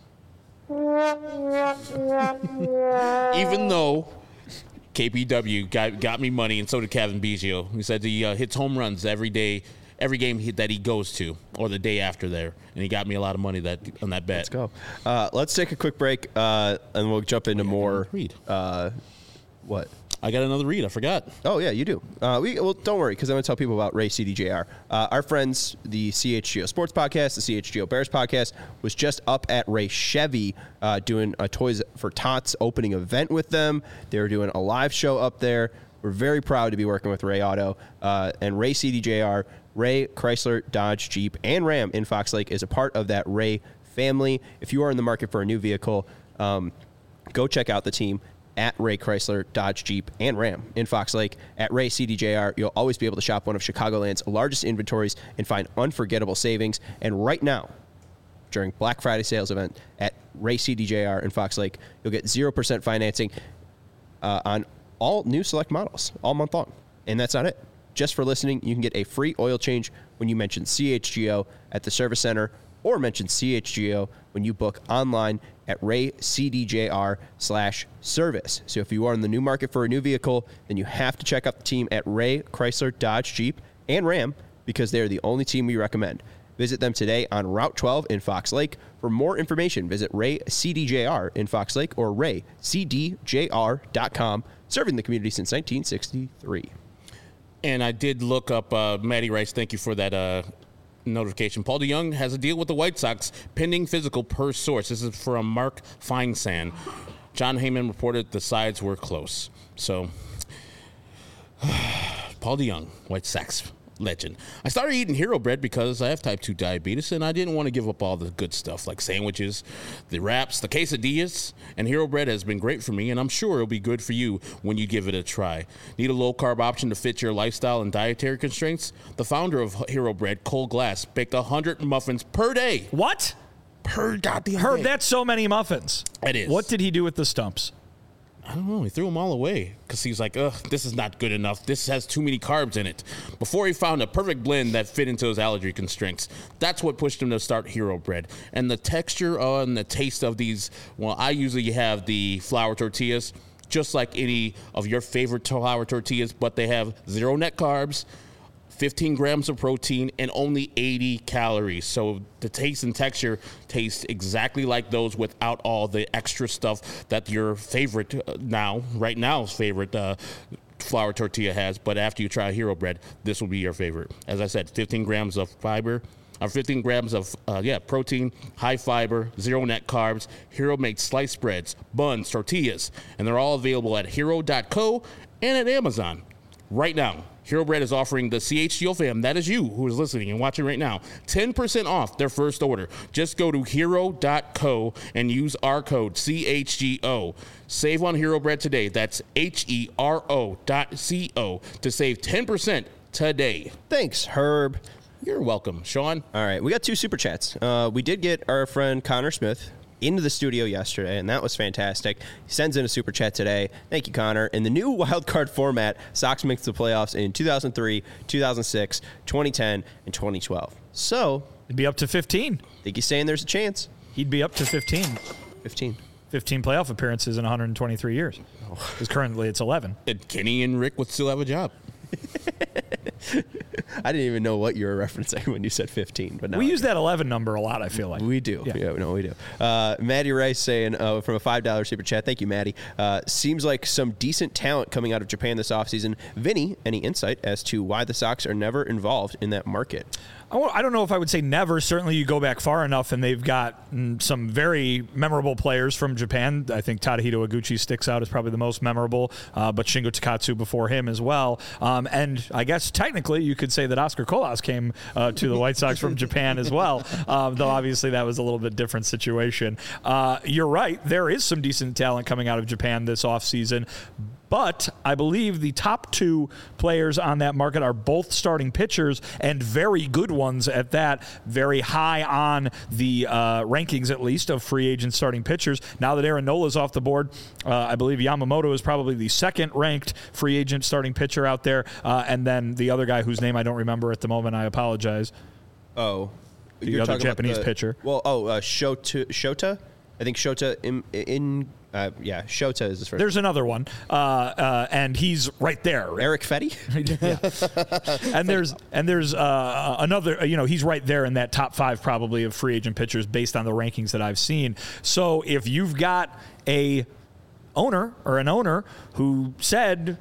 Even though K P W got got me money, and so did Kevin Biggio. He said he uh, hits home runs every day, every game he, that he goes to, or the day after there, and he got me a lot of money that on that bet. Let's go. Uh, let's take a quick break, uh, and we'll jump into more. Read. Uh, what? I got another read. I forgot. Oh yeah, you do. Uh, we well, don't worry, because I'm going to tell people about Ray C D J R. Uh, our friends, the C H G O Sports Podcast, the C H G O Bears Podcast, was just up at Ray Chevy uh, doing a Toys for Tots opening event with them. They were doing a live show up there. We're very proud to be working with Ray Auto uh, and Ray C D J R. Ray Chrysler, Dodge, Jeep, and Ram in Fox Lake is a part of that Ray family. If you are in the market for a new vehicle, um, go check out the team at Ray Chrysler, Dodge, Jeep, and Ram in Fox Lake. At Ray C D J R, you'll always be able to shop one of Chicagoland's largest inventories and find unforgettable savings. And right now, during Black Friday sales event at Ray C D J R in Fox Lake, you'll get zero percent financing uh, on all new select models all month long. And that's not it. Just for listening, you can get a free oil change when you mention C H G O at the service center, or mention C H G O when you book online at Ray C D J R slash service. So if you are in the new market for a new vehicle, then you have to check out the team at Ray Chrysler, Dodge, Jeep, and Ram, because they are the only team we recommend. Visit them today on Route twelve in Fox Lake. For more information, visit Ray C D J R in Fox Lake or ray c d j r dot com, serving the community since nineteen sixty-three. And I did look up uh, Matty Rice. Thank you for that uh, notification. Paul DeJong has a deal with the White Sox, pending physical per source. This is from Mark Feinsand. John Heyman reported the sides were close. So, Paul DeJong, White Sox legend. I started eating Hero Bread because I have type two diabetes, and I didn't want to give up all the good stuff like sandwiches, the wraps, the quesadillas, and Hero Bread has been great for me, and I'm sure it'll be good for you when you give it a try. Need a low-carb option to fit your lifestyle and dietary constraints? The founder of Hero Bread, Cole Glass, baked one hundred muffins per day. What? Per goddamn Herb, day. that's so many muffins. It is. What did he do with the stumps? I don't know. He threw them all away because he was like, ugh, this is not good enough. This has too many carbs in it. Before he found a perfect blend that fit into his allergy constraints. That's what pushed him to start Hero Bread. And the texture uh, and the taste of these, well, I usually have the flour tortillas, just like any of your favorite flour tortillas, but they have zero net carbs, fifteen grams of protein, and only eighty calories. So the taste and texture taste exactly like those without all the extra stuff that your favorite uh, now, right now's favorite uh, flour tortilla has. But after you try Hero Bread, this will be your favorite. As I said, fifteen grams of fiber, or fifteen grams of, uh, yeah, protein, high fiber, zero net carbs. Hero makes sliced breads, buns, tortillas, and they're all available at hero dot co and at Amazon right now. Hero Bread is offering the C H G O fam, that is you who is listening and watching right now, ten percent off their first order. Just go to hero dot co and use our code C H G O. Save on Hero Bread today. That's H E R O dot C O to save ten percent today. Thanks, Herb. You're welcome, Sean. All right, we got two super chats. Uh, we did get our friend Connor Smith into the studio yesterday, and that was fantastic. He sends in a super chat today. Thank you, Connor. In the new wild card format, Sox makes the playoffs in two thousand three, two thousand six, twenty ten, and twenty twelve. So, It'd be up to fifteen. think he's saying there's a chance. He'd be up to fifteen. fifteen. fifteen playoff appearances in one hundred twenty-three years. Because currently it's eleven. And Kenny and Rick would still have a job. I didn't even know what you were referencing when you said fifteen. But now We I use do. that eleven number a lot, I feel like. We do. Yeah. Yeah, no, we do. Uh, Maddie Rice saying uh, from a five dollar super chat, thank you, Maddie. Uh, seems like some decent talent coming out of Japan this offseason. Vinny, any insight as to why the Sox are never involved in that market? I won't- I don't know if I would say never. Certainly, you go back far enough, and they've got mm, some very memorable players from Japan. I think Tadahito Iguchi sticks out as probably the most memorable, uh, but Shingo Takatsu before him as well. Um, and I guess technically, you could say that Oscar Colas came uh, to the White Sox from Japan as well, uh, though obviously that was a little bit different situation. Uh, you're right. There is some decent talent coming out of Japan this offseason. But I believe the top two players on that market are both starting pitchers, and very good ones at that, very high on the uh, rankings, at least, of free agent starting pitchers. Now that Aaron Nola's off the board, uh, I believe Yamamoto is probably the second-ranked free agent starting pitcher out there, uh, and then the other guy whose name I don't remember at the moment, I apologize. Oh. The You're other talking about Japanese the- pitcher. Well, oh, uh, Shota, Shota? I think Shota in, in uh, yeah, Shota is his first. There's another one, uh, uh, and he's right there. Eric Fetty? Yeah. and there's and there's uh, another, you know, he's right there in that top five probably of free agent pitchers based on the rankings that I've seen. So if you've got a owner or an owner who said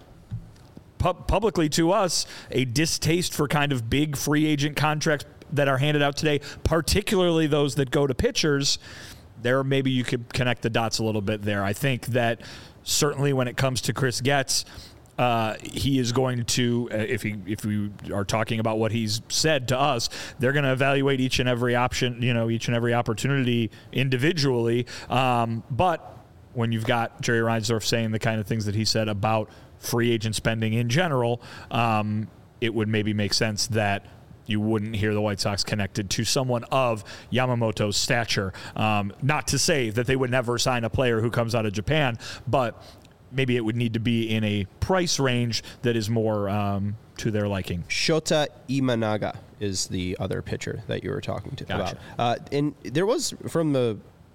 pu- publicly to us a distaste for kind of big free agent contracts that are handed out today, particularly those that go to pitchers, there maybe you could connect the dots a little bit there. I think that certainly when it comes to Chris Getz, uh, he is going to, uh, if he if we are talking about what he's said to us, they're going to evaluate each and every option, you know, each and every opportunity individually. Um, but when you've got Jerry Reinsdorf saying the kind of things that he said about free agent spending in general, um, it would maybe make sense that you wouldn't hear the White Sox connected to someone of Yamamoto's stature. Um, not to say that they would never sign a player who comes out of Japan, but maybe it would need to be in a price range that is more um, to their liking. Shota Imanaga is the other pitcher that you were talking to Gotcha. about. Uh, and there was, from the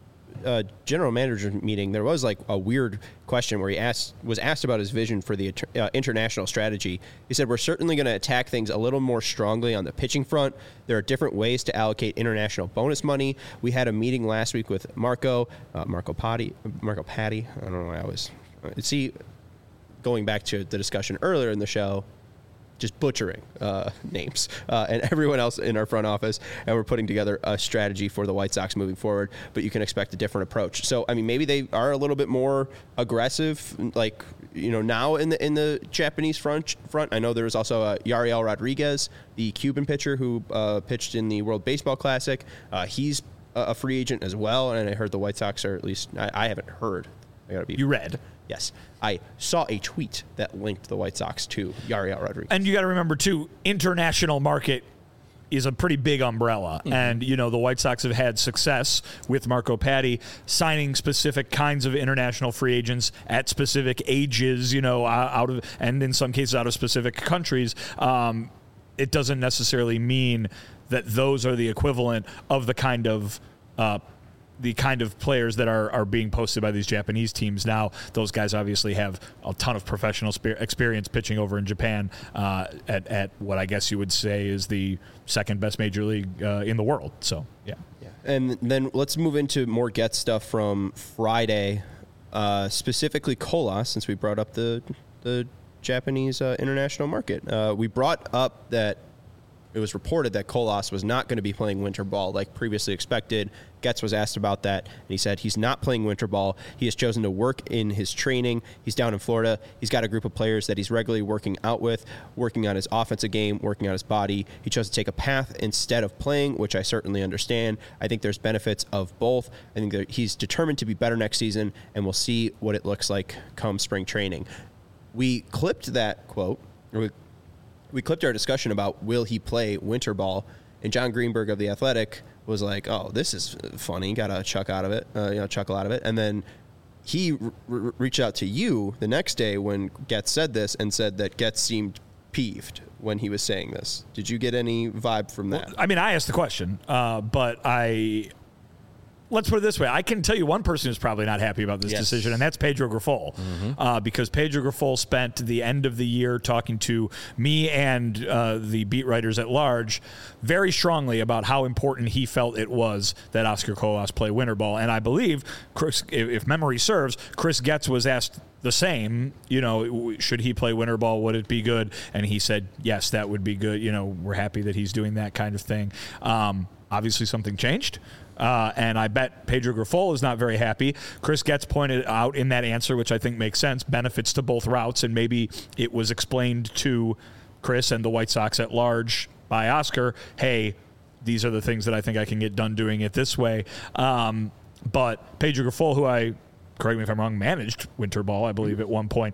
uh, general manager meeting, there was like a weird question where he asked was asked about his vision for the uh, international strategy. He said, we're certainly going to attack things a little more strongly on the pitching front. There are different ways to allocate international bonus money. We had a meeting last week with Marco, uh, Marco Patti, Marco Patti. I don't know why I was, uh, see, going back to the discussion earlier in the show, just butchering uh, names, uh, and everyone else in our front office, and we're putting together a strategy for the White Sox moving forward, but you can expect a different approach. So, I mean, maybe they are a little bit more aggressive, like, you know, now in the in the Japanese front. front. I know there was also uh, Yariel Rodriguez, the Cuban pitcher who uh, pitched in the World Baseball Classic. Uh, he's a a free agent as well, and I heard the White Sox are, at least, I, I haven't heard. I gotta be. You read. Yes. I saw a tweet that linked the White Sox to Yariel Rodriguez. And you got to remember, too, international market is a pretty big umbrella. Mm-hmm. And, you know, the White Sox have had success with Marco Patti signing specific kinds of international free agents at specific ages, you know, out of, and in some cases out of specific countries. Um, it doesn't necessarily mean that those are the equivalent of the kind of uh, the kind of players that are, are being posted by these Japanese teams now. Those guys obviously have a ton of professional spe- experience pitching over in Japan uh, at, at what I guess you would say is the second best major league uh, in the world. So, yeah. yeah. And then let's move into more Get stuff from Friday, uh, specifically Colas, since we brought up the, the Japanese uh, international market. Uh, we brought up that it was reported that Colas was not going to be playing winter ball like previously expected. Getz was asked about that, and he said he's not playing winter ball. He has chosen to work in his training. He's down in Florida. He's got a group of players that he's regularly working out with, working on his offensive game, working on his body. He chose to take a path instead of playing, which I certainly understand. I think there's benefits of both. I think that he's determined to be better next season, and we'll see what it looks like come spring training. We clipped that quote, or we We clipped our discussion about will he play winter ball, and John Greenberg of The Athletic was like, "Oh, this is funny. Got a chuck out of it, uh, you know, chuckle out of it." And then he r- r- reached out to you the next day when Getz said this and said that Getz seemed peeved when he was saying this. Did you get any vibe from that? Well, I mean, I asked the question, uh, but I. Let's put it this way. I can tell you one person who's probably not happy about this Yes. decision, and that's Pedro Grifol. Mm-hmm. Uh, because Pedro Grifol spent the end of the year talking to me and uh, the beat writers at large very strongly about how important he felt it was that Oscar Colas play winter ball. And I believe, Chris, if, if memory serves, Chris Getz was asked the same, you know, should he play winter ball? Would it be good? And he said, yes, that would be good. You know, we're happy that he's doing that kind of thing. Um, obviously, something changed. Uh, and I bet Pedro Grifol is not very happy. Chris Getz pointed out in that answer, which I think makes sense, benefits to both routes, and maybe it was explained to Chris and the White Sox at large by Oscar, hey, these are the things that I think I can get done doing it this way. Um, but Pedro Grifol, who I, correct me if I'm wrong, managed winter ball, I believe, at one point,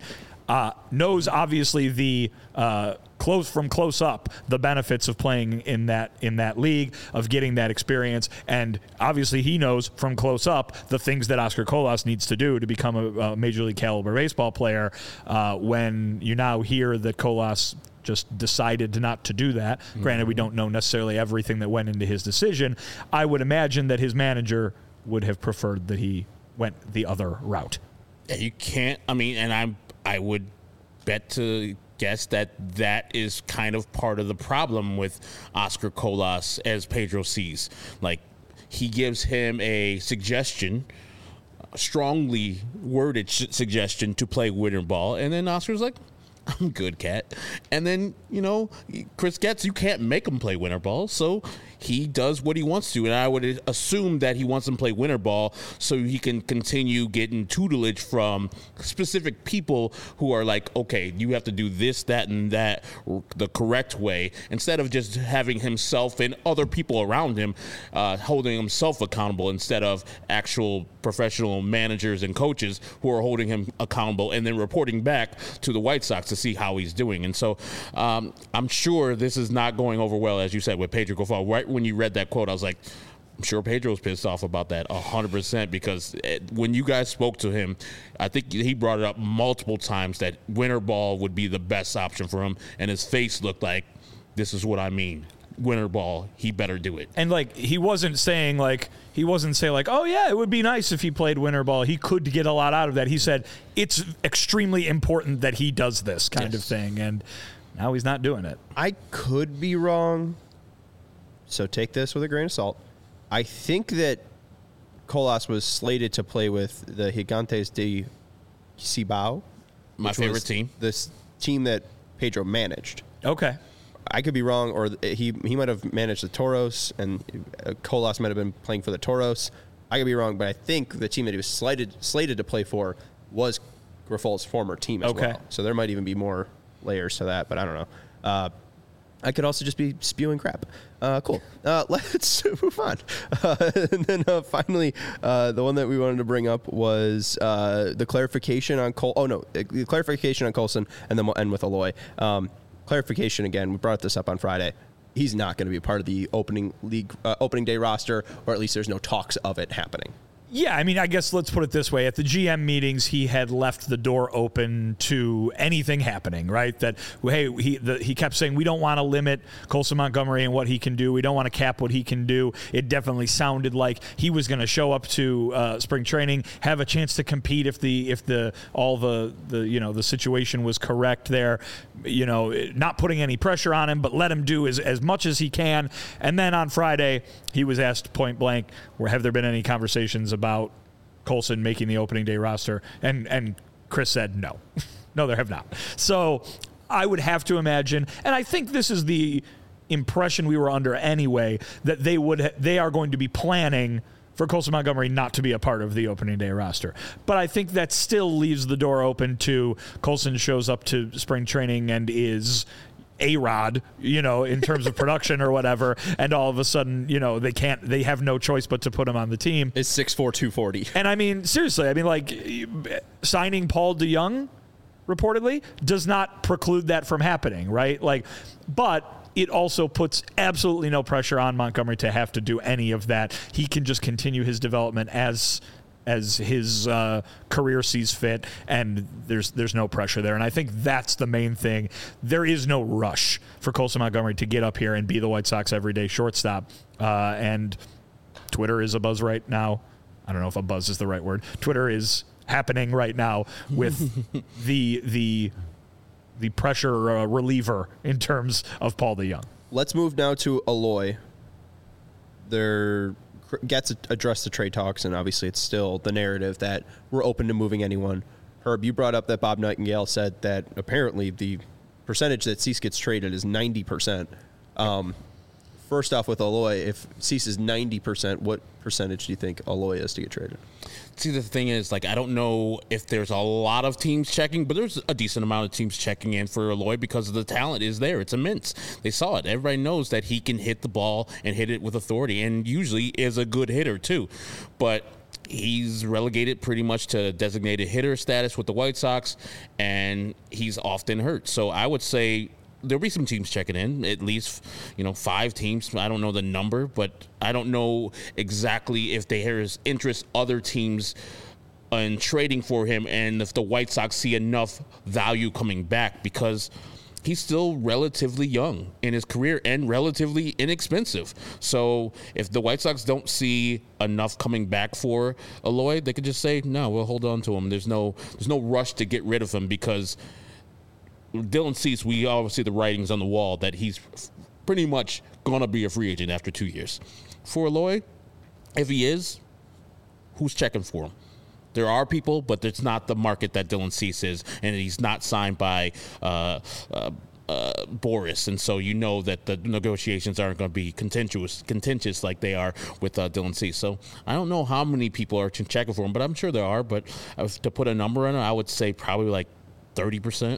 uh, knows obviously the uh, close from close up the benefits of playing in that in that league, of getting that experience, and obviously he knows from close up the things that Oscar Colas needs to do to become a, a major league caliber baseball player. Uh, when you now hear that Colas just decided not to do that, mm-hmm. granted we don't know necessarily everything that went into his decision, I would imagine that his manager would have preferred that he went the other route. Yeah, you can't. I mean, and I'm. I would bet to guess that that is kind of part of the problem with Oscar Colas as Pedro sees. Like, he gives him a suggestion, a strongly worded sh- suggestion to play winter ball, and then Oscar's like, I'm good, Cat. And then, you know, Chris Getz, you can't make him play winter ball, so he does what he wants to. And I would assume that he wants him to play winter ball so he can continue getting tutelage from specific people who are like, okay, you have to do this, that, and that the correct way, instead of just having himself and other people around him uh, holding himself accountable, instead of actual professional managers and coaches who are holding him accountable and then reporting back to the White Sox to see how he's doing. And so um, I'm sure this is not going over well, as you said, with Pedro Grifol. Right when you read that quote, I was like, I'm sure Pedro's pissed off about that one hundred percent, because it, when you guys spoke to him, I think he brought it up multiple times that winter ball would be the best option for him, and his face looked like, this is what I mean. Winter ball, he better do it. And like, he wasn't saying like he wasn't saying like, oh yeah, it would be nice if he played winter ball. He could get a lot out of that. He said it's extremely important that he does this kind yes. of thing, and now he's not doing it. I could be wrong, so take this with a grain of salt. I think that Colas was slated to play with the Gigantes de Cibao, my favorite team. This team that Pedro managed. Okay. I could be wrong, or he he might have managed the Toros, and Colas might have been playing for the Toros. I could be wrong, but I think the team that he was slated slated to play for was Grifol's former team as okay. well. So there might even be more layers to that, but I don't know. Uh, I could also just be spewing crap. Uh, cool. Uh, let's move on. Uh, and then uh, finally, uh, the one that we wanted to bring up was uh, the clarification on Col. Oh no, the clarification on Colson, and then we'll end with Eloy. Um, clarification again. We brought this up on Friday. He's not going to be a part of the opening league uh, opening day roster, or at least there's no talks of it happening. Yeah, I mean, I guess let's put it this way. At the G M meetings, he had left the door open to anything happening, right? That, hey, he the, he kept saying, we don't want to limit Colson Montgomery and what he can do. We don't want to cap what he can do. It definitely sounded like he was going to show up to uh, spring training, have a chance to compete if the if the all the, the you know the situation was correct there. You know, not putting any pressure on him, but let him do as, as much as he can. And then on Friday, he was asked point blank, have there been any conversations about Colson making the opening day roster? And and Chris said no. No, there have not. So I would have to imagine, and I think this is the impression we were under anyway, that they would ha- they are going to be planning for Colson Montgomery not to be a part of the opening day roster. But I think that still leaves the door open to Colson shows up to spring training and is A-Rod, you know, in terms of production or whatever, and all of a sudden, you know, they can't, they have no choice but to put him on the team. Is six four, two forty. And I mean, seriously, I mean, like, signing Paul DeJong, reportedly, does not preclude that from happening, right? Like, but it also puts absolutely no pressure on Montgomery to have to do any of that. He can just continue his development as as his uh, career sees fit, and there's there's no pressure there. And I think that's the main thing. There is no rush for Colson Montgomery to get up here and be the White Sox everyday shortstop. Uh, and Twitter is a buzz right now. I don't know if a buzz is the right word. Twitter is happening right now with the the the pressure uh, reliever in terms of Paul DeJong. Let's move now to Eloy. There gets addressed the trade talks, and obviously it's still the narrative that we're open to moving anyone. Herb, you brought up that Bob Nightingale said that apparently the percentage that Cease gets traded is ninety percent. Um, first off, with Eloy, if Cease is ninety percent, what percentage do you think Eloy is to get traded? See, the thing is, like, I don't know if there's a lot of teams checking, but there's a decent amount of teams checking in for Eloy because the talent is there. It's immense. They saw it. Everybody knows that he can hit the ball and hit it with authority, and usually is a good hitter, too. But he's relegated pretty much to designated hitter status with the White Sox, and he's often hurt. So I would say there'll be some teams checking in, at least, you know, five teams. I don't know the number, but I don't know exactly if there's interest other teams in trading for him and if the White Sox see enough value coming back, because he's still relatively young in his career and relatively inexpensive. So if the White Sox don't see enough coming back for Eloy, they could just say, no, we'll hold on to him. There's no there's no rush to get rid of him, because Dylan Cease, we all see the writings on the wall that he's pretty much going to be a free agent after two years. For Eloy, if he is, who's checking for him? There are people, but it's not the market that Dylan Cease is, and he's not signed by uh, uh, uh, Boris, and so you know that the negotiations aren't going to be contentious, contentious like they are with uh, Dylan Cease. So I don't know how many people are checking for him, but I'm sure there are. But to put a number on it, I would say probably like thirty percent.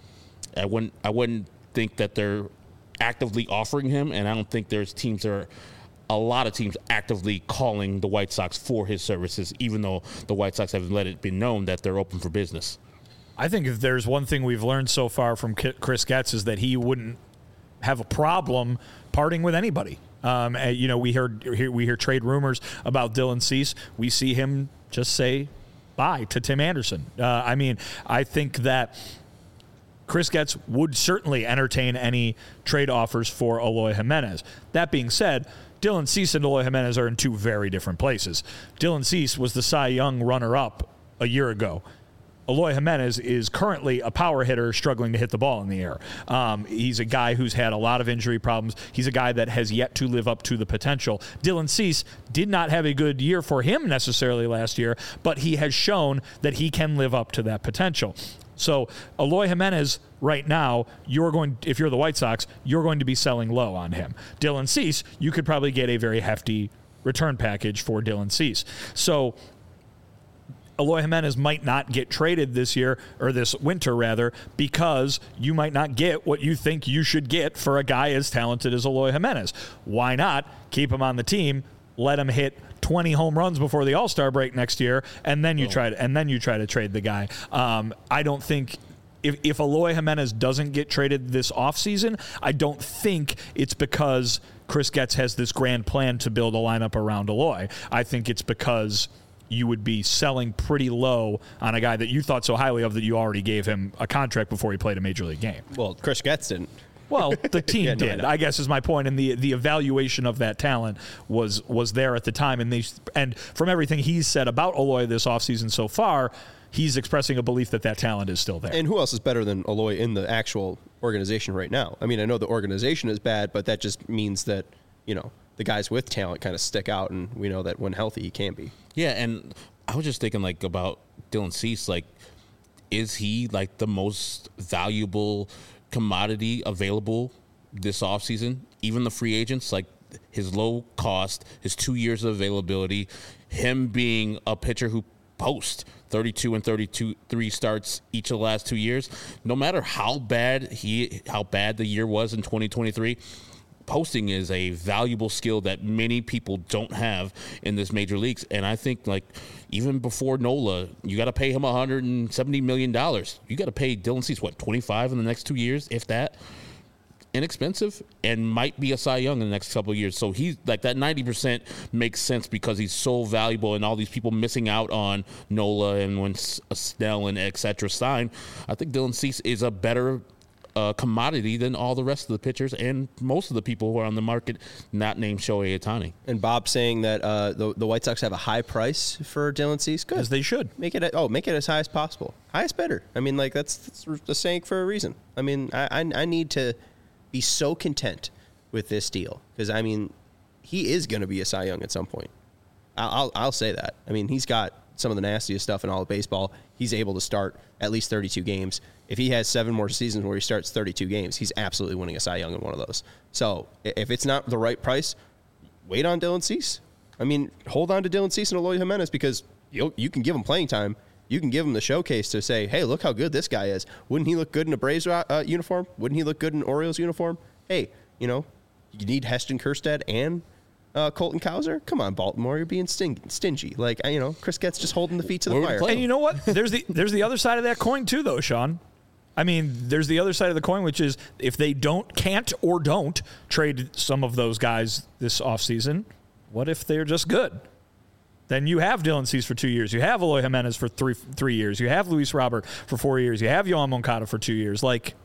I wouldn't I wouldn't think that they're actively offering him, and I don't think there's teams that are a lot of teams actively calling the White Sox for his services, even though the White Sox have let it be known that they're open for business. I think if there's one thing we've learned so far from Chris Getz is that he wouldn't have a problem parting with anybody. Um, and, you know, we heard we hear trade rumors about Dylan Cease. We see him just say bye to Tim Anderson. Uh, I mean, I think that Chris Getz would certainly entertain any trade offers for Eloy Jimenez. That being said, Dylan Cease and Eloy Jimenez are in two very different places. Dylan Cease was the Cy Young runner-up a year ago. Eloy Jimenez is currently a power hitter struggling to hit the ball in the air. Um, he's a guy who's had a lot of injury problems. He's a guy that has yet to live up to the potential. Dylan Cease did not have a good year for him necessarily last year, but he has shown that he can live up to that potential. So Eloy Jimenez right now, you're going, if you're the White Sox, you're going to be selling low on him. Dylan Cease, you could probably get a very hefty return package for Dylan Cease. So Eloy Jimenez might not get traded this year, or this winter rather, because you might not get what you think you should get for a guy as talented as Eloy Jimenez. Why not keep him on the team, let him hit twenty home runs before the All-Star break next year, and then you oh. try to, and then you try to trade the guy. Um, I don't think if if Eloy Jimenez doesn't get traded this offseason, I don't think it's because Chris Getz has this grand plan to build a lineup around Eloy. I think it's because you would be selling pretty low on a guy that you thought so highly of that you already gave him a contract before he played a major league game. Well, Chris Getz didn't. Well, the team yeah, no, did, I, I guess is my point, and the the evaluation of that talent was was there at the time, and they and from everything he's said about Eloy this offseason so far, he's expressing a belief that that talent is still there. And who else is better than Eloy in the actual organization right now? I mean, I know the organization is bad, but that just means that, you know, the guys with talent kind of stick out, and we know that when healthy, he can be. Yeah, and I was just thinking, like, about Dylan Cease, like, is he, like, the most valuable commodity available this offseason? Even the free agents, like his low cost, his two years of availability, him being a pitcher who posts thirty-two and thirty-two, three starts each of the last two years. No matter how bad he, how bad the year was in twenty twenty-three, posting is a valuable skill that many people don't have in this major leagues. And I think, like, even before Nola, you got to pay him one hundred seventy million dollars. You got to pay Dylan Cease, what, twenty-five in the next two years, if that? Inexpensive, and might be a Cy Young in the next couple of years. So he's like, that ninety percent makes sense because he's so valuable, and all these people missing out on Nola and when Snell and et cetera sign. I think Dylan Cease is a better Uh, commodity than all the rest of the pitchers and most of the people who are on the market not named Shohei Ohtani. And Bob saying that uh, the the White Sox have a high price for Dylan Cease. Good, as they should. Make it oh make it as high as possible. Highest bidder. I mean, like that's, that's the saying for a reason. I mean, I I, I need to be so content with this deal because I mean, he is going to be a Cy Young at some point. I'll, I'll I'll say that. I mean, he's got some of the nastiest stuff in all of baseball. He's able to start at least thirty-two games. If he has seven more seasons where he starts thirty-two games, he's absolutely winning a Cy Young in one of those. So if it's not the right price, wait on Dylan Cease. I mean, hold on to Dylan Cease and Eloy Jimenez because you you can give him playing time. You can give him the showcase to say, hey, look how good this guy is. Wouldn't he look good in a Braves uh, uniform? Wouldn't he look good in an Orioles uniform? Hey, you know, you need Heston Kjerstad and Uh, Colton Cowser, come on, Baltimore, you're being sting- stingy. Like, you know, Chris Getz just holding the feet to the Where would he fire. play? And you know what? There's the there's the other side of that coin too, though, Sean. I mean, there's the other side of the coin, which is if they don't, can't, or don't trade some of those guys this offseason, what if they're just good? Then you have Dylan Cease for two years. You have Eloy Jimenez for three three years. You have Luis Robert for four years. You have Yohan Moncada for two years. Like,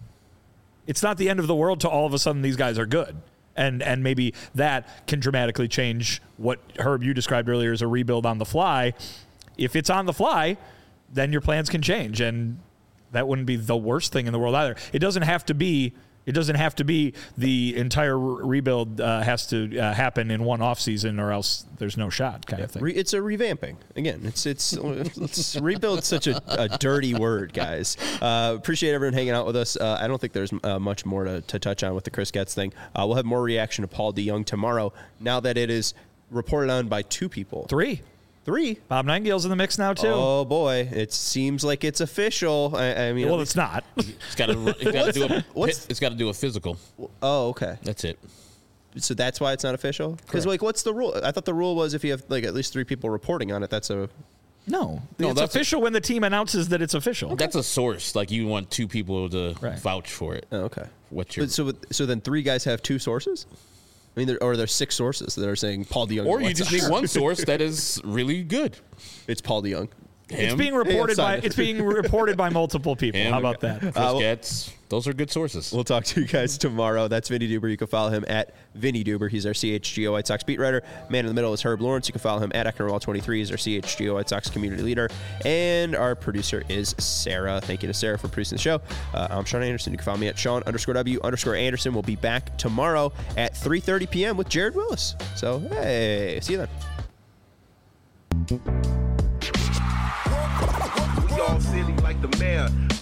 it's not the end of the world to all of a sudden these guys are good. And and maybe that can dramatically change what, Herb, you described earlier as a rebuild on the fly. If it's on the fly, then your plans can change. And that wouldn't be the worst thing in the world either. It doesn't have to be It doesn't have to be the entire re- rebuild uh, has to uh, happen in one offseason or else there's no shot kind of thing. Re- it's a revamping. Again, it's it's, it's rebuild such a, a dirty word, guys. Uh, appreciate everyone hanging out with us. Uh, I don't think there's uh, much more to, to touch on with the Chris Getz thing. Uh, we'll have more reaction to Paul DeJong tomorrow now that it is reported on by two people. Three. Three. Bob Nightingale's in the mix now, too. Oh, boy. It seems like it's official. I, I mean, well, it's not. It's got to. It's got to do a. what's- It's got to do a physical. Oh, okay. That's it. So that's why it's not official? Because, like, what's the rule? I thought the rule was if you have, like, at least three people reporting on it, that's a... No. No, it's that's official when the team announces that it's official. That's a source. Like you want two people to Right. vouch for it. Oh, okay. What's your? But so, so then three guys have two sources? I mean, there, or there's six sources that are saying Paul DeJong. Or you White just Sox. need one source that is really good. It's Paul DeJong. It's Him, being reported Hey, by I'm it's being reported by multiple people. him, How about that? Chris well- Getz. Those are good sources. We'll talk to you guys tomorrow. That's Vinny Duber. You can follow him at Vinny Duber. He's our C H G O White Sox beat writer. Man in the middle is Herb Lawrence. You can follow him at Ecknerwall twenty-three. He's our C H G O White Sox community leader. And our producer is Sarah. Thank you to Sarah for producing the show. Uh, I'm Sean Anderson. You can follow me at Sean underscore W underscore Anderson. We'll be back tomorrow at three thirty p.m. with Jared Willis. So, hey, see you then. We all silly like the mayor.